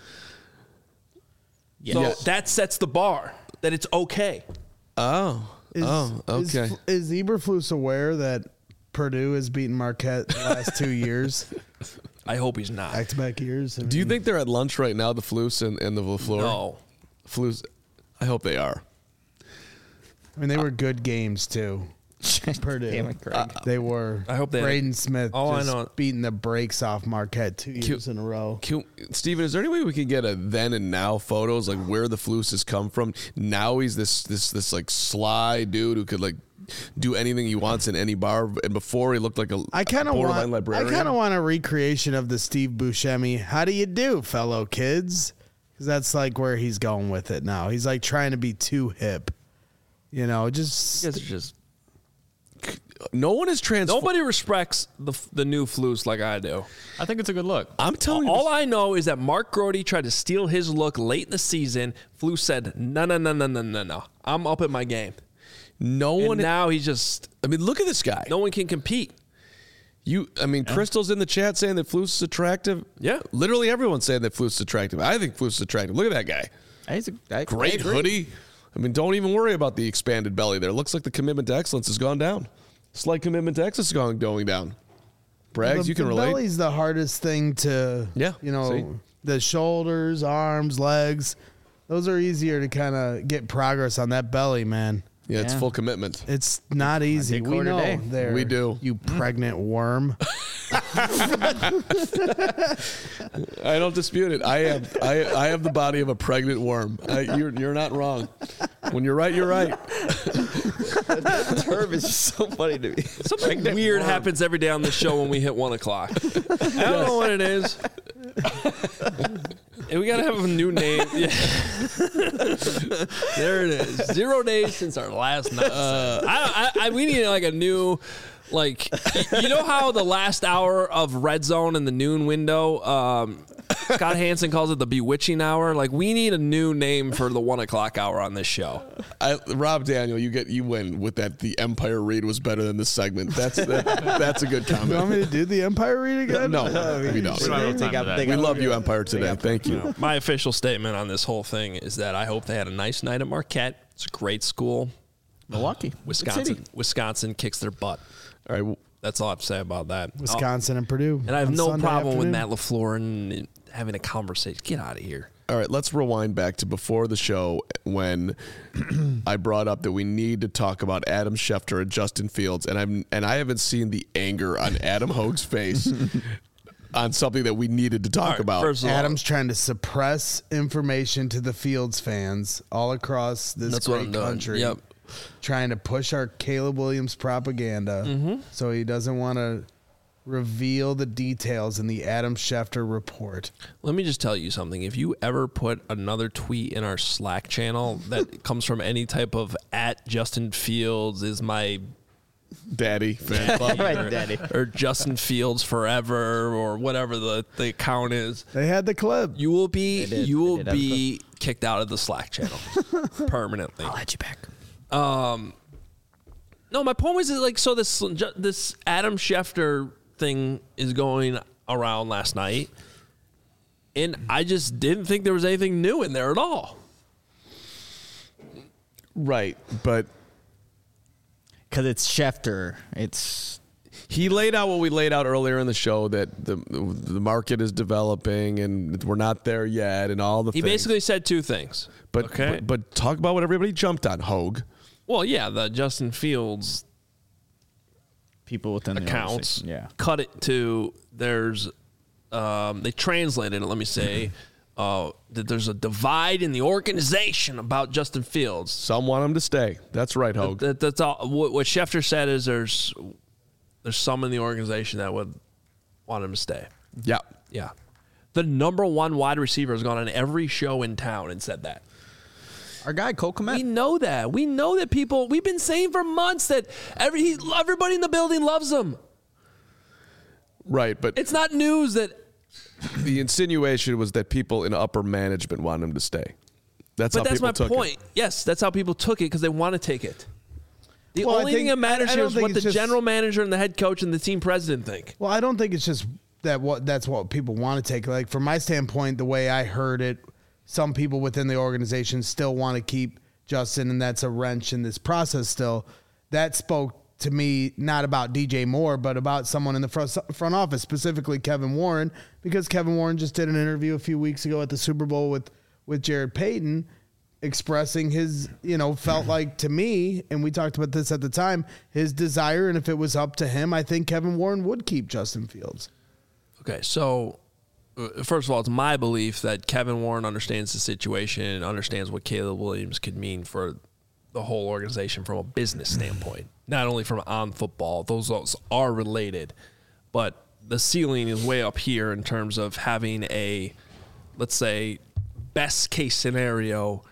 So that sets the bar that it's okay. Okay. Is Eberflus aware that Purdue has beaten Marquette the last 2 years? I hope he's not. Back-to-back years. Do you think they're at lunch right now, the Flus and the LaFleur? No. Flus. I hope they are. I mean, they were good games too. Purdue. Damn it, Greg. They were. I hope they had Braden Smith I just know. beating the brakes off Marquette 2 years in a row. Steven, is there any way we can get a then and now photos, like where the Flus has come from? Now he's this like sly dude who could like do anything he wants in any bar, and before he looked like a borderline librarian. I kind of want a recreation of the Steve Buscemi. How do you do, fellow kids? Because that's like where he's going with it now. He's like trying to be too hip. You know, just It's just No one is transformed. nobody respects the new Flus like I do. I think it's a good look. I'm telling you, All I know is that Mark Grody tried to steal his look late in the season. Flus said, no. I'm up at my game. no And one. now he's just, I mean, look at this guy. no one can compete. Crystal's in the chat saying that Flus is attractive. Yeah. Literally everyone's saying that Flus is attractive. I think Flus is attractive. Look at that guy. Great hoodie. I mean, don't even worry about the expanded belly there. Looks like the commitment to excellence has gone down. Slight commitment to excellence is going down. Braggs, you can relate. The belly's the hardest thing to, Yeah, you know, see? the shoulders, arms, legs. Those are easier to kind of get progress on that belly, man. Yeah, it's Yeah. full commitment. It's not easy. take We quarter know day. there. We do. You pregnant worm. I don't dispute it. I have the body of a pregnant worm. You're not wrong. When you're right, you're right. Term is just so funny to me. Something weird happens every day on the show when we hit 1 o'clock. I don't know what it is. And we gotta have a new name. Yeah. There it is. 0 days since our last night. We need like a new, like, you know how the last hour of Red Zone in the noon window, Scott Hansen calls it the bewitching hour. Like, we need a new name for the 1 o'clock hour on this show. Rob Daniel, you win with that. The Empire read was better than this segment. That's a good You want comment. me to do the Empire read again? No, we don't. We don't have time for that. We love you, Empire, today. Thank you. My official statement on this whole thing is that I hope they had a nice night at Marquette. It's a great school. Milwaukee. Wisconsin kicks their butt. All right. That's all I have to say about that. Wisconsin and Purdue. And I have on no Sunday problem with afternoon. Matt LaFleur and having a conversation. Get out of here. All right, let's rewind back to before the show when I brought up that we need to talk about Adam Schefter and Justin Fields, and I haven't seen the anger on Adam Hogue's face on something that we needed to talk All right, about. first of all, Adam's trying to suppress information to the Fields fans all across this That's what great I'm doing. country. Yep. Trying to push our Caleb Williams propaganda so he doesn't want to reveal the details in the Adam Schefter report. let me just tell you something. If you ever put another tweet in our Slack channel that comes from any type of @ Justin Fields is my Daddy fan club. Right, Daddy. or Justin Fields forever or whatever the account is, They had the clip. you will be They did. you will They did have be kicked out of the Slack channel permanently. I'll let you back. No, my point was that, like, so this Adam Schefter thing is going around last night, and I just didn't think there was anything new in there at all. Right, but Because it's Schefter. he laid out what we laid out earlier in the show, that the market is developing and we're not there yet, and all the He things. basically said two things. But, okay. but talk about what everybody jumped on, Hogue. Well, yeah, the Justin Fields people within the accounts organization. Yeah. cut it to there's they translated it, let me say, that there's a divide in the organization about Justin Fields. Some want him to stay. That's right, Hogue. That's all. What Schefter said is there's some in the organization that would want him to stay. Yeah. Yeah. The number one wide receiver has gone on every show in town and said that. Our guy, Cole Kmet. We know that. We know that people, we've been saying for months that everybody in the building loves him. Right, but It's not news that, the insinuation was that people in upper management want him to stay. That's how but that's people my took point. it. Yes, that's how people took it because they want to take it. The Well, I only thing think- that matters I here don't is think what the it's just- general manager and the head coach and the team president think. Well, I don't think it's just that's what people want to take. Like, from my standpoint, the way I heard it, some people within the organization still want to keep Justin, and that's a wrench in this process still. That spoke to me not about DJ Moore, but about someone in the front office, specifically Kevin Warren, because Kevin Warren just did an interview a few weeks ago at the Super Bowl with Jared Payton, expressing his, felt like to me, and we talked about this at the time, his desire, and if it was up to him, I think Kevin Warren would keep Justin Fields. Okay, so first of all, it's my belief that Kevin Warren understands the situation and understands what Caleb Williams could mean for the whole organization from a business standpoint, not only from on football. Those are related, but the ceiling is way up here in terms of having a, let's say, best case scenario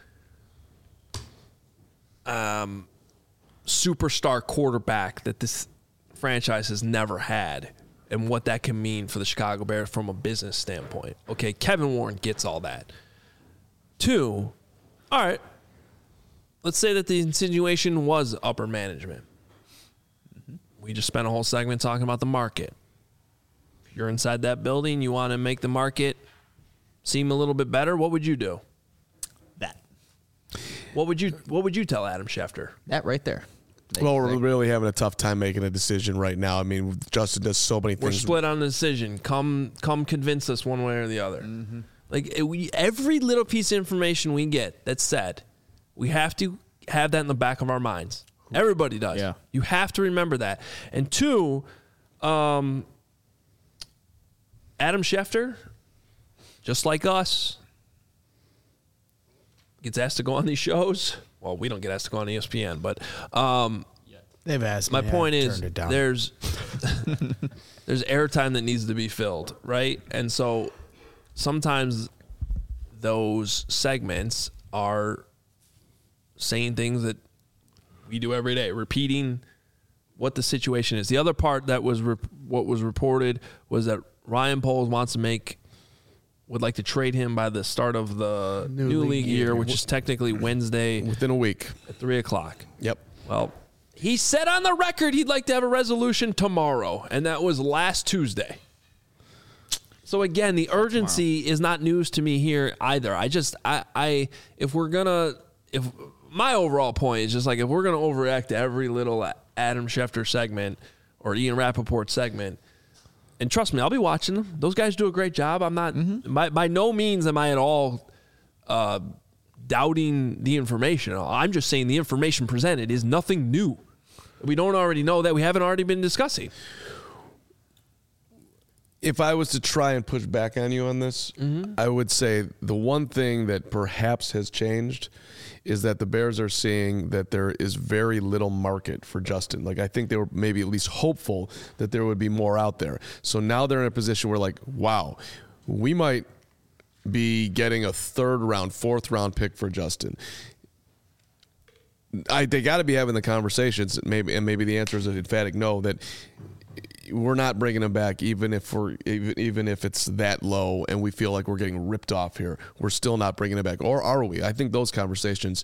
superstar quarterback that this franchise has never had and what that can mean for the Chicago Bears from a business standpoint. Okay, Kevin Warren gets all that. 2, all right, let's say that the insinuation was upper management. We just spent a whole segment talking about the market. If you're inside that building, you want to make the market seem a little bit better, what would you do? That. What would you tell Adam Schefter? That right there. Well, we're really having a tough time making a decision right now. I mean, Justin does so many things. We're split on the decision. Come convince us one way or the other. Mm-hmm. Every little piece of information we get that's said, we have to have that in the back of our minds. Everybody does. Yeah. You have to remember that. And 2, Adam Schefter, just like us, gets asked to go on these shows. Well, we don't get asked to go on ESPN, but they've asked my me. point I is turned it down. there's airtime that needs to be filled, right? And so sometimes those segments are saying things that we do every day, repeating what the situation is. The other part that was what was reported was that Ryan Poles would like to trade him by the start of the new league year, which is technically Wednesday. Within a week. At 3 o'clock. Yep. Well, he said on the record he'd like to have a resolution tomorrow, and that was last Tuesday. So again, the urgency is not news to me here either. If my overall point is just like, if we're going to overreact to every little Adam Schefter segment or Ian Rappaport segment, and trust me, I'll be watching them. Those guys do a great job. I'm not, by no means am I at all doubting the information. I'm just saying the information presented is nothing new. We don't already know that. We haven't already been discussing. If I was to try and push back on you on this, I would say the one thing that perhaps has changed is that the Bears are seeing that there is very little market for Justin. Like, I think they were maybe at least hopeful that there would be more out there. So now they're in a position where, like, wow, we might be getting a 3rd round, 4th round pick for Justin. They got to be having the conversations, maybe the answer is an emphatic no, that we're not bringing him back, even if it's that low and we feel like we're getting ripped off here. We're still not bringing him back, or are we? I think those conversations.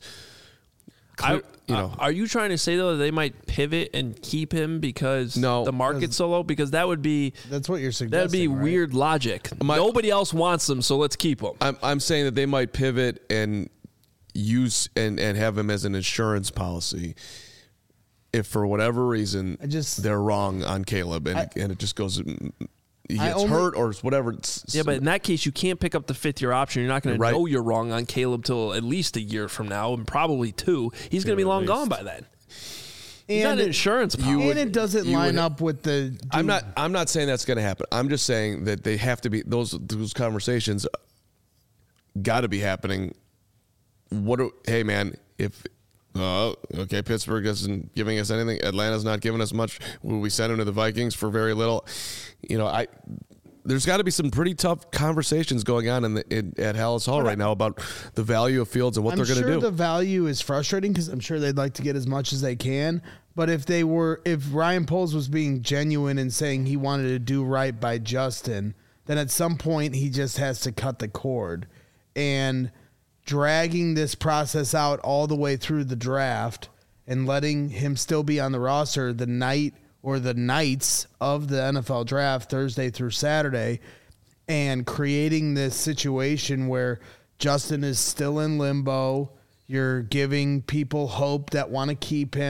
Are you trying to say though that they might pivot and keep him because the market's so low? Because that's what you're suggesting. That'd be right? Weird logic. Nobody else wants him, so let's keep him. I'm saying that they might pivot and use and have him as an insurance policy if for whatever reason they're wrong on Caleb and it just goes, he gets hurt or whatever. Yeah, but in that case, you can't pick up the 5th-year option. You're not going to know you're wrong on Caleb till at least a year from now, and probably 2. He's going to be long gone by then. He's not an insurance policy. And it doesn't line up with the. I'm not saying that's going to happen. I'm just saying that they have to be those conversations. Got to be happening. Hey man, if. Okay, Pittsburgh isn't giving us anything. Atlanta's not giving us much. We sent him to the Vikings for very little. There's got to be some pretty tough conversations going on at Hallis Hall right now about the value of Fields and what they're going to do. I'm sure the value is frustrating because I'm sure they'd like to get as much as they can. But if Ryan Poles was being genuine and saying he wanted to do right by Justin, then at some point he just has to cut the cord. And dragging this process out all the way through the draft and letting him still be on the roster the night or the nights of the NFL draft, Thursday through Saturday, and creating this situation where Justin is still in limbo. You're giving people hope that want to keep him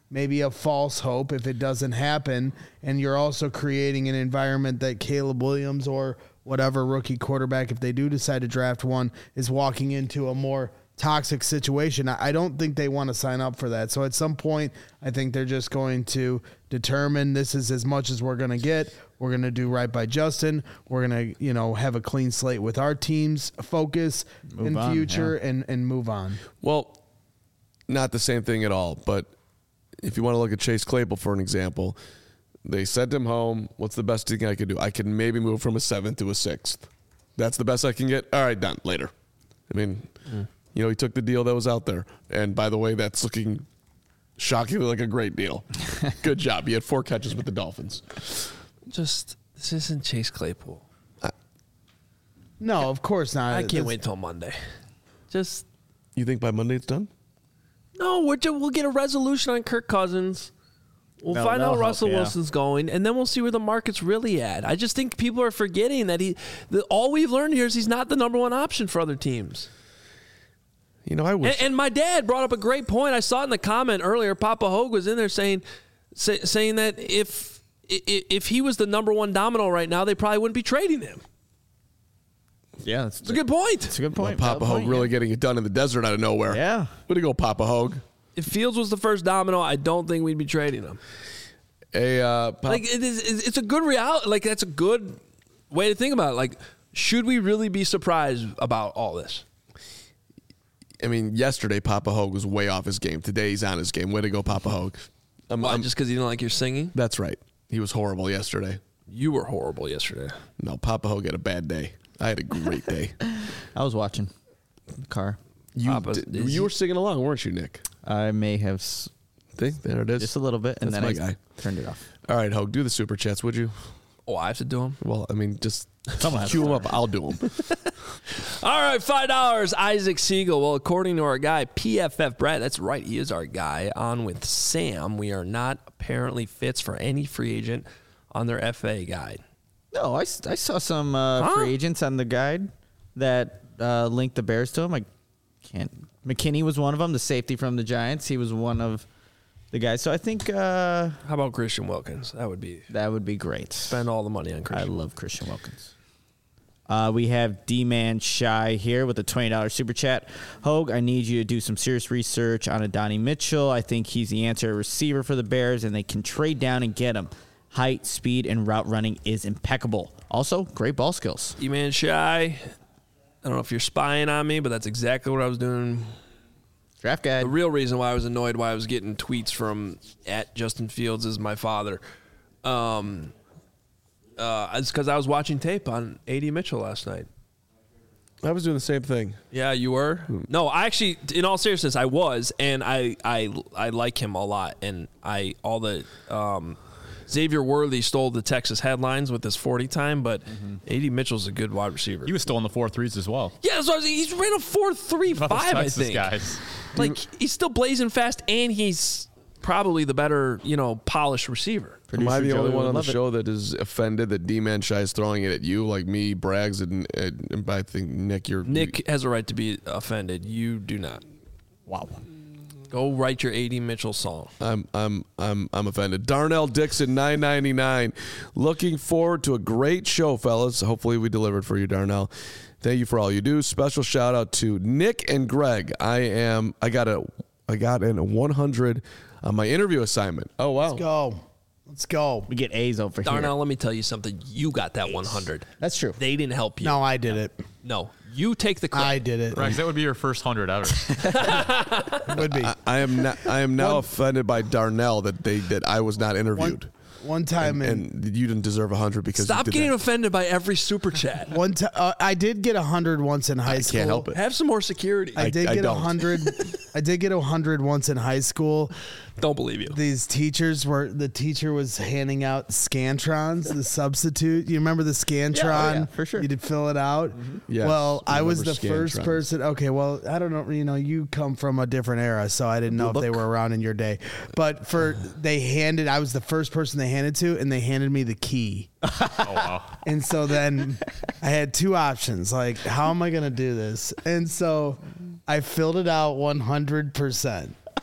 maybe a false hope if it doesn't happen. And you're also creating an environment that Caleb Williams or whatever rookie quarterback, if they do decide to draft one, is walking into a more toxic situation. I don't think they want to sign up for that. So at some point, I think they're just going to determine this is as much as we're going to get. We're going to do right by Justin. We're going to, have a clean slate with our team's focus in future and move on. Well, not the same thing at all. But if you want to look at Chase Claypool, for an example, they sent him home. What's the best thing I could do? I can maybe move from a 7th to a 6th. That's the best I can get. All right, done. Later. I mean, he took the deal that was out there. And by the way, that's looking shockingly like a great deal. Good job. He had 4 catches with the Dolphins. This isn't Chase Claypool. No, of course not. I can't wait till Monday. You think by Monday it's done? No, we'll get a resolution on Kirk Cousins. We'll find out Russell Wilson's going, and then we'll see where the market's really at. I just think people are forgetting that all we've learned here is he's not the number one option for other teams. I wish. And my dad brought up a great point. I saw it in the comment earlier. Papa Hogue was in there saying that if he was the number one domino right now, they probably wouldn't be trading him. Yeah, that's a good point. It's a good point. Papa Hogue really getting it done in the desert out of nowhere. Yeah. Way to go, Papa Hogue. If Fields was the first domino, I don't think we'd be trading him. It's a good reality. Like, that's a good way to think about it. Like, should we really be surprised about all this? I mean, yesterday Papa Hogue was way off his game. Today he's on his game. Way to go, Papa Hogue. Just because you didn't like your singing? That's right. He was horrible yesterday. You were horrible yesterday. No, Papa Hogue had a bad day. I had a great day. I was watching in the car. You were singing along, weren't you, Nick? I may have. There it is. Just a little bit, and That's then my I guy. turned it off. All right, Hogue, do the super chats, would you? Oh, I have to do them? Well, I mean, just Someone has cue to them up. I'll do them. All right, $5. Isaac Siegel. Well, according to our guy, PFF Brad, that's right, he is our guy. On with Sam. We are not apparently fits for any free agent on their FA guide. No, I saw some free agents on the guide that linked the Bears to him. I can't. McKinney was one of them, the safety from the Giants. He was one of the guys. So I think. How about Christian Wilkins? That would be great. Spend all the money on Christian. I love Christian Wilkins. We have D-Man Shy here with a $20 super chat. Hogue, I need you to do some serious research on Adonai Mitchell. I think he's the answer receiver for the Bears, and they can trade down and get him. Height, speed, and route running is impeccable. Also, great ball skills. D-Man Shy. I don't know if you're spying on me, but that's exactly what I was doing. Draft guide. The real reason why I was annoyed, why I was getting tweets from @JustinFields is my father. It's because I was watching tape on A.D. Mitchell last night. I was doing the same thing. Yeah, you were? No, I actually, in all seriousness, I was, and I like him a lot. And Xavier Worthy stole the Texas headlines with his 40 time, but A.D. Mitchell's a good wide receiver. He was still in the 4.3s as well. Yeah, so he's ran a 4.35, I think. Guys. Like, he's still blazing fast, and he's probably the better, polished receiver. Am I the Joey only one would on the love it. show that is offended that D-Man Shy is throwing it at you, like me, Braggs, and I think Nick, Nick has a right to be offended. You do not. Wow. Go write your A.D. Mitchell song. I'm offended. Darnell Dixon, $9.99. Looking forward to a great show, fellas. Hopefully we delivered for you, Darnell. Thank you for all you do. Special shout out to Nick and Greg. I got an 100 on my interview assignment. Oh wow. Let's go. We get A's over here. Darnell, let me tell you something. You got that 100. That's true. They didn't help you. No, I did it. No, you take the credit. I did it. Rex, that would be your first 100 ever. It would be. I am now offended by Darnell that I was not interviewed. One time and you didn't deserve 100 because Stop you did getting that. offended by every super chat. one time I did get 100 once in high school. Can't help it. Have some more security. I did get don't. 100. I did get 100 once in high school. Don't believe you. The teacher was handing out Scantrons, the substitute. You remember the Scantron? yeah, for sure. You did fill it out. Yes, Well, I was the remember first Scantrons. person. Okay, well, I don't know. You come from a different era, so I didn't know if they were around in your day. But I was the first person they handed to, and they handed me the key. Oh, wow. And so then I had two options. Like, how am I going to do this? And so I filled it out 100%.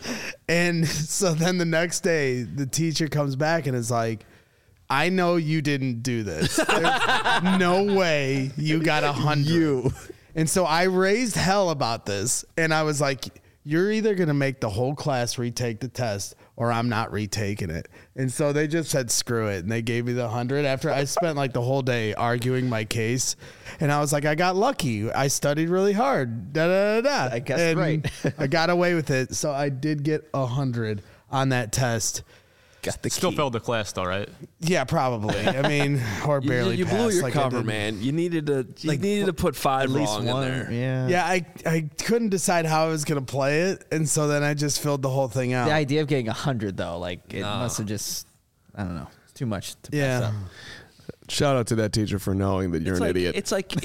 And so then the next day, the teacher comes back and is like, I know you didn't do this. There's no way you got 100. And so I raised hell about this. And I was like, you're either going to make the whole class retake the test or I'm not retaking it. And so they just said, screw it. And they gave me the 100 after I spent like the whole day arguing my case. And I was like, I got lucky. I studied really hard. Da, da, da, da. I guess and right. I got away with it. So I did get 100 on that test. Got the Still key. failed the class though, right? Yeah, probably. I mean, or barely You blew passed, your like I cover, did. man. You needed to put 5 At least wrong one. in there. Yeah. Yeah, I couldn't decide how I was going to play it. And so then I just filled the whole thing out. The idea of getting 100 though, like it must have just, I don't know, it's too much to pass Yeah. up. Shout out to that teacher for knowing that you're an idiot. It's like,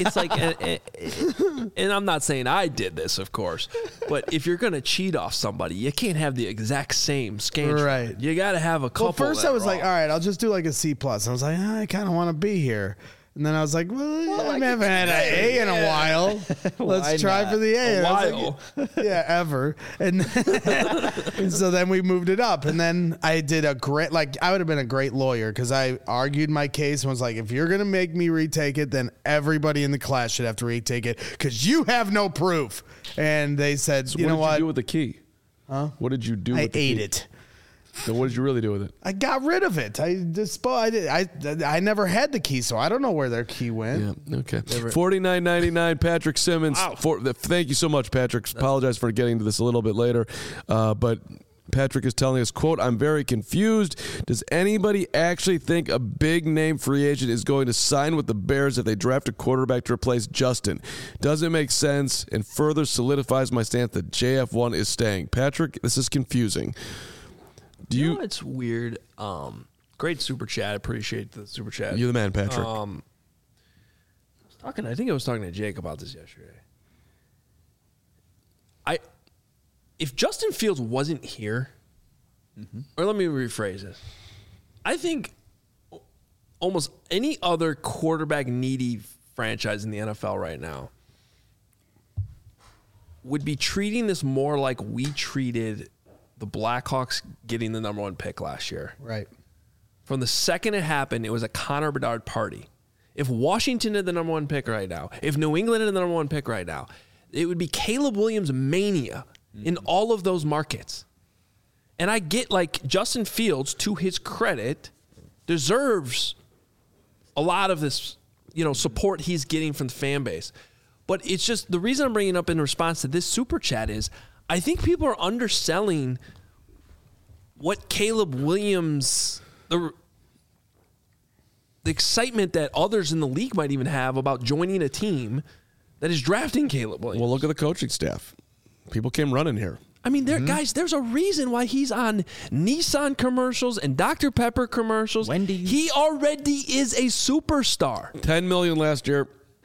and I'm not saying I did this, of course, but if you're gonna cheat off somebody, you can't have the exact same scantron. Right. You got to have a couple. Well, first that I was are like, off. all right, I'll just do like a C+. I was like, I kind of want to be here. And then I was like, well, I haven't had an A in a while. Let's try not? for the A. A And I was while. like, yeah, ever. And, and so then we moved it up. And then I did a great, like, I would have been a great lawyer because I argued my case and was like, if you're going to make me retake it, then everybody in the class should have to retake it because you have no proof. And they said, you know what did what? you do with the key? Huh? What did you do I with the ate key? it. So what did you really do with it? I got rid of it. I never had the key, so I don't know where their key went. Yeah. Okay. $49.99. Patrick Simmons. Thank you so much, Patrick. Apologize for getting to this a little bit later, but Patrick is telling us, quote, I'm very confused. Does anybody actually think a big name free agent is going to sign with the Bears if they draft a quarterback to replace Justin? Doesn't make sense and further solidifies my stance that JF1 is staying. Patrick, this is confusing. You know what's weird? Great super chat. Appreciate the super chat. You're the man, Patrick. I think I was talking to Jake about this yesterday. If Justin Fields wasn't here, or let me rephrase this. I think almost any other quarterback needy franchise in the NFL right now would be treating this more like we treated the Blackhawks getting the number 1 pick last year. Right. From the second it happened, it was a Connor Bedard party. If Washington had the number 1 pick right now, if New England had the number 1 pick right now, it would be Caleb Williams mania in all of those markets. And I get, like, Justin Fields, to his credit, deserves a lot of this, support he's getting from the fan base. But it's just, the reason I'm bringing it up in response to this super chat is I think people are underselling what Caleb Williams, the excitement that others in the league might even have about joining a team that is drafting Caleb Williams. Well, look at the coaching staff. People came running here. I mean, guys, there's a reason why he's on Nissan commercials and Dr. Pepper commercials. Wendy's. He already is a superstar. $10 million last year.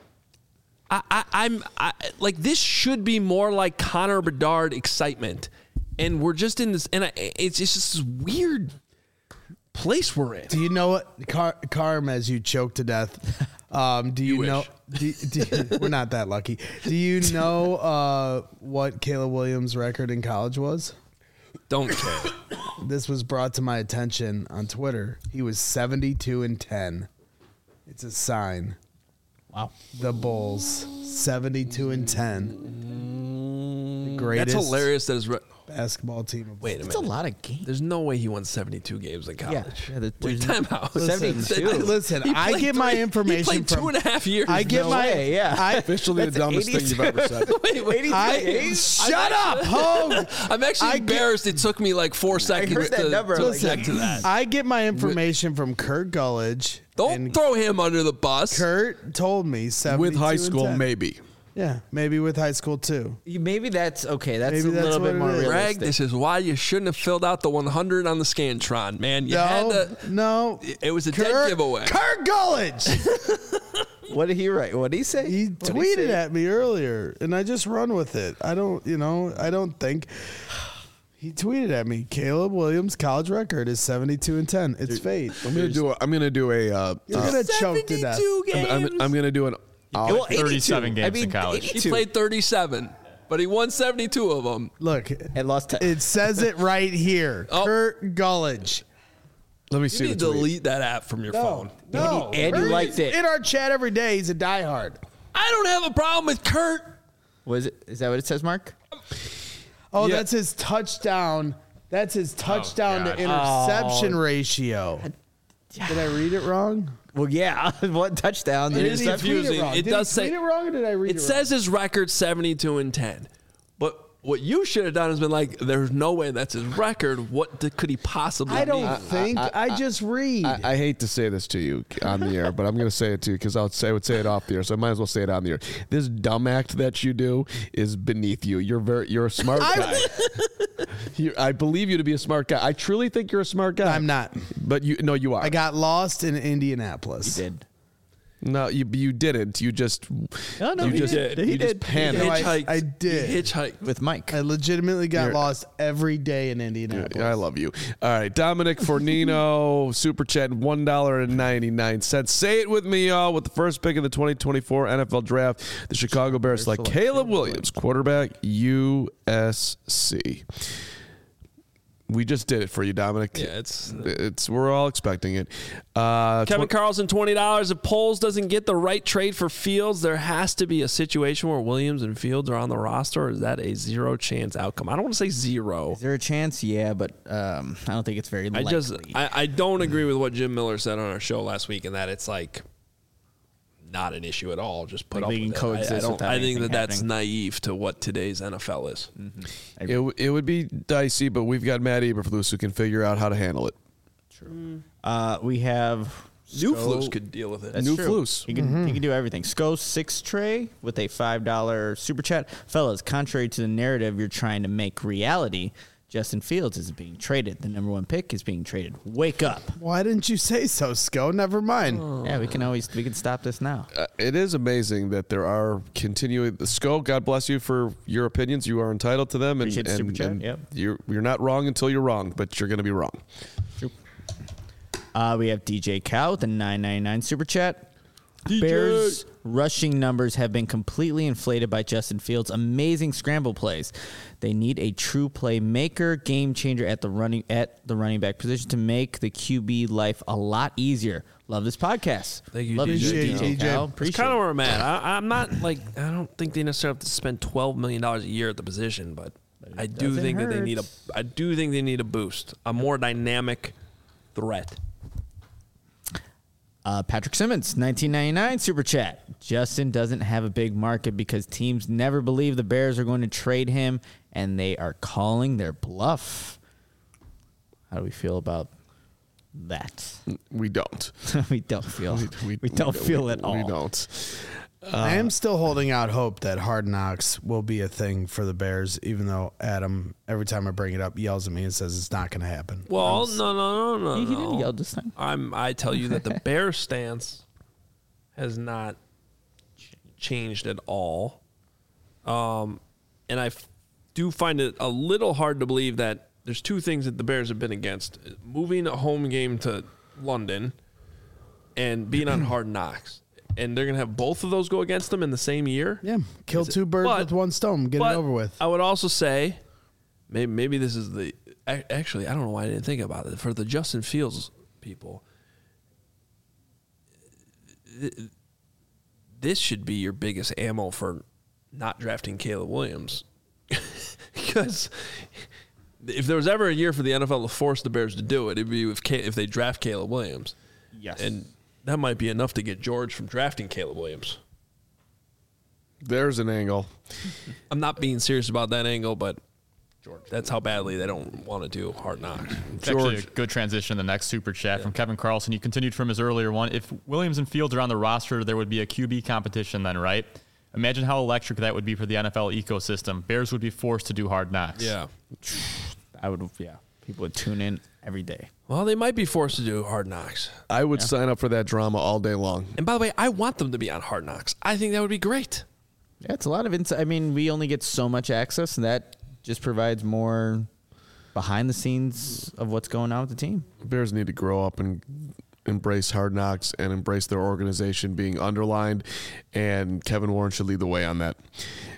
I'm like, this should be more like Connor Bedard excitement, and we're just in this, and it's just this weird place we're in. Do you know what, Carm, as you choke to death? Do you know? We're not that lucky. Do you know what Caleb Williams' record in college was? Don't care. This was brought to my attention on Twitter. He was 72-10. It's a sign. Wow. The Bulls 72-10. The greatest That's hilarious. That is. basketball team. Of Wait a It's a minute. lot of games. There's no way he won 72 games in college. Yeah, Wait, time out. 72. Listen, He I played get my information He played from 2.5 years. I get No my way, yeah. Officially the dumbest thing you've ever said. Wait. Shut up, Hogue. I'm actually embarrassed. It took me like 4 seconds heard that to number, to like, get to that. I get my information from Kurt Gullidge. Don't and throw him under the bus. Kurt told me 72 With high school, and 10. maybe. Yeah, maybe with high school too. Maybe that's okay. That's Maybe a that's little what bit it more is. realistic. Greg, this is why you shouldn't have filled out the 100 on the Scantron, man. You had to. No. It was a dead giveaway. Kurt Gullidge. What did he write? What did he say? He What'd tweeted say? at me earlier, and I just run with it. I don't think. He tweeted at me, Caleb Williams' college record is 72-10. It's fate. I'm gonna do a. You're gonna choke to death. 72 games. I'm gonna do an. Well, 37 82. games in college. He 82. played 37. but he won 72 of them. Look, And lost 10. it says it right here. Oh. Kurt Gullidge. Let me You see need the to tweet. delete that app from your phone. No. And he Kurt liked is it. In our chat every day, he's a diehard. I don't have a problem with Kurt. Was it? Is that what it says, Mark? Oh, Yeah. that's his touchdown. That's his touchdown to God. interception ratio. Did I read it wrong? Well, yeah. What touchdown? Or It did is he tweet confusing. wrong? It Did does he say- tweet it wrong, or did I read it It wrong? says his record 72-10. But what you should have done is been like, there's no way that's his record. What could he possibly I don't mean? think. I just read. I hate to say this to you on the air, but I'm going to say it to you because I would say it off the air, so I might as well say it on the air. This dumb act that you do is beneath you. You're a smart guy. I believe you to be a smart guy. I truly think you're a smart guy. I'm not. But you are. I got lost in Indianapolis. He did. No, you didn't. You just No, you he just did. you He just did. panicked. No, I Hitchhiked. did. He hitchhiked. With Mike. I legitimately got You're- lost every day in Indianapolis. I love you. All right, Dominic Fornino, super chat, $1.99. Say it with me, y'all. With the first pick of the 2024 NFL Draft, the Chicago Bears select Caleb Williams, quarterback, USC. We just did it for you, Dominic. Yeah, it's We're all expecting it. Kevin Carlson, $20. If Poles doesn't get the right trade for Fields, there has to be a situation where Williams and Fields are on the roster, or is that a zero chance outcome? I don't want to say zero. Is there a chance? Yeah, but I don't think it's very likely. I don't agree with what Jim Miller said on our show last week, and that it's like not an issue at all. Just put Like up they can with it. coexist I without think anything that's happening. naive to what today's NFL is. It would be dicey, but we've got Matt Eberflus who can figure out how to handle it. We have New Sko- Flus could deal with it. That's New true. Flus. He can do everything. Sko 6 Trey with a $5 super chat. Fellas, contrary to the narrative you're trying to make reality, Justin Fields is being traded. The number 1 pick is being traded. Wake up. Why didn't you say so, Sko? Never mind. Yeah, we can stop this now. It is amazing that there are continuing. Sko, God bless you for your opinions. You are entitled to them, and, Appreciate the super chat, and yep. you're not wrong until you're wrong, but you're going to be wrong. We have DJ Cow with a $9.99 super chat. Bears rushing numbers have been completely inflated by Justin Fields' amazing scramble plays. They need a true playmaker, game changer at the running back position to make the QB life a lot easier. Love this podcast. Thank you, Love DJ. you, DJ. Cow. It's Appreciate kind of it. where I'm at. I'm not like, I don't think they necessarily have to spend $12 million a year at the position, but I do doesn't think that they need hurt. I do think they need a boost, a more dynamic threat. Patrick Simmons, $19.99 super chat. Justin doesn't have a big market because teams never believe the Bears are going to trade him, and they are calling their bluff. How do we feel about that? We don't. we don't feel. We don't feel at all. We don't. I am still holding out hope that Hard Knocks will be a thing for the Bears, even though Adam, every time I bring it up, yells at me and says it's not going to happen. Well, no. He didn't yell this time. I tell you that the Bears stance has not changed at all. And I do find it a little hard to believe that there's two things that the Bears have been against: moving a home game to London and being on Hard Knocks. And they're going to have both of those go against them in the same year? Yeah, kill two birds with one stone. Get it over with. I would also say, maybe this is the... Actually, I don't know why I didn't think about it. For the Justin Fields people, this should be your biggest ammo for not drafting Caleb Williams. Because if there was ever a year for the NFL to force the Bears to do it, it'd be if they draft Caleb Williams. Yes. And that might be enough to get George from drafting Caleb Williams. There's an angle. I'm not being serious about that angle, but that's how badly they don't want to do Hard Knocks. It's actually a good transition to the next super chat from Kevin Carlson. You continued from his earlier one. If Williams and Fields are on the roster, there would be a QB competition then, right? Imagine how electric that would be for the NFL ecosystem. Bears would be forced to do Hard Knocks. Yeah. People would tune in every day. Well, they might be forced to do Hard Knocks. I would sign up for that drama all day long. And by the way, I want them to be on Hard Knocks. I think that would be great. Yeah, it's a lot of insight. I mean, we only get so much access, and that just provides more behind the scenes of what's going on with the team. Bears need to grow up and embrace Hard Knocks and embrace their organization being underlined, and Kevin Warren should lead the way on that.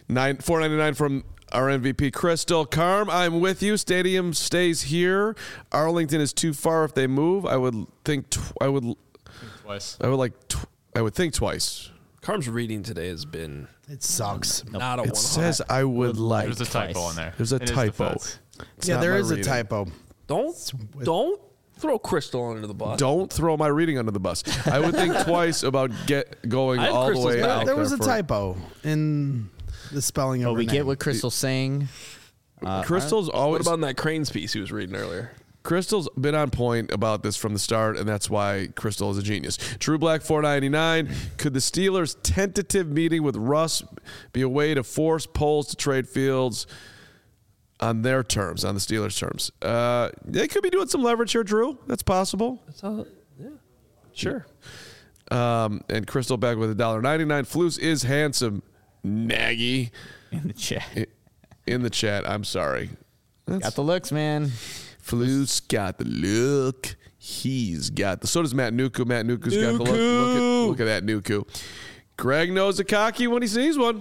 $4.99 from our MVP, Crystal. Carm, I'm with you. Stadium stays here. Arlington is too far if they move. I would think Twice. I would think twice. Carm's reading today has been It sucks. not a It 100. says I would like. There's a typo in there. There's a In his typo. defense. It's Yeah, not there my is a reading. typo. Don't throw Crystal under the bus. Don't throw my reading under the bus. I would think twice about going I had all the Crystal's way back. out There was a for- typo in the spelling of But her we name. get what Crystal's saying. Crystal's What always about that Cranes piece he was reading earlier? Crystal's been on point about this from the start, and that's why Crystal is a genius. True Black $4.99. Could the Steelers' tentative meeting with Russ be a way to force Poles to trade Fields on their terms, on the Steelers' terms? They could be doing some leverage here, Drew. That's possible. That's all, yeah, sure. And Crystal back with $1.99. Flus is handsome. Nagy In the chat. in the chat. I'm sorry. Got the looks, man. Flus got the look. He's got the. So does Matt Nuku. Matt Nuku's got the look. Look at that Nuku. Greg knows a cocky when he sees one.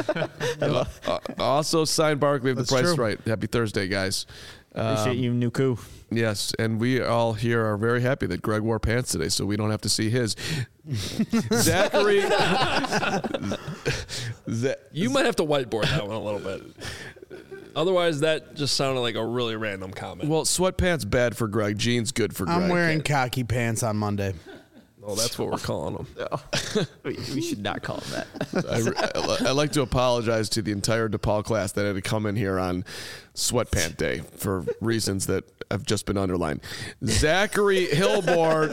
Also signed Barkley of The That's Price is true. Right. Happy Thursday, guys. Appreciate you, Nuku. Yes, and we all here are very happy that Greg wore pants today, so we don't have to see his. Zachary. You might have to whiteboard that one a little bit. Otherwise, that just sounded like a really random comment. Well, sweatpants bad for Greg. Jeans good for Greg. I'm wearing khaki pants on Monday. Oh, that's what we're calling them. We should not call him that. I'd like to apologize to the entire DePaul class that had to come in here on sweatpant day for reasons that have just been underlined. Zachary Hillborn,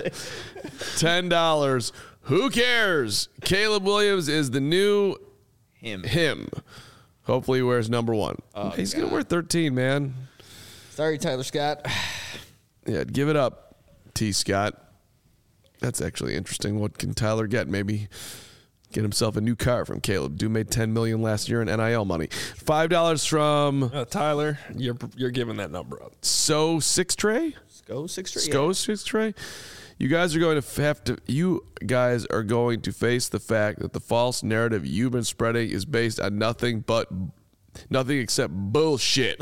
$10. Who cares? Caleb Williams is the new him. Hopefully he wears number 1. He's going to wear 13, man. Sorry, Tyler Scott. Yeah, give it up, T. Scott. That's actually interesting. What can Tyler get? Maybe get himself a new car from Caleb. Dude made $10 million last year in NIL money. $5 from Tyler, you're giving that number up. So Six Tray. Go 6 straight. Sco Six Tray. You guys are going to have to. You guys are going to face the fact that the false narrative you've been spreading is based on nothing except bullshit.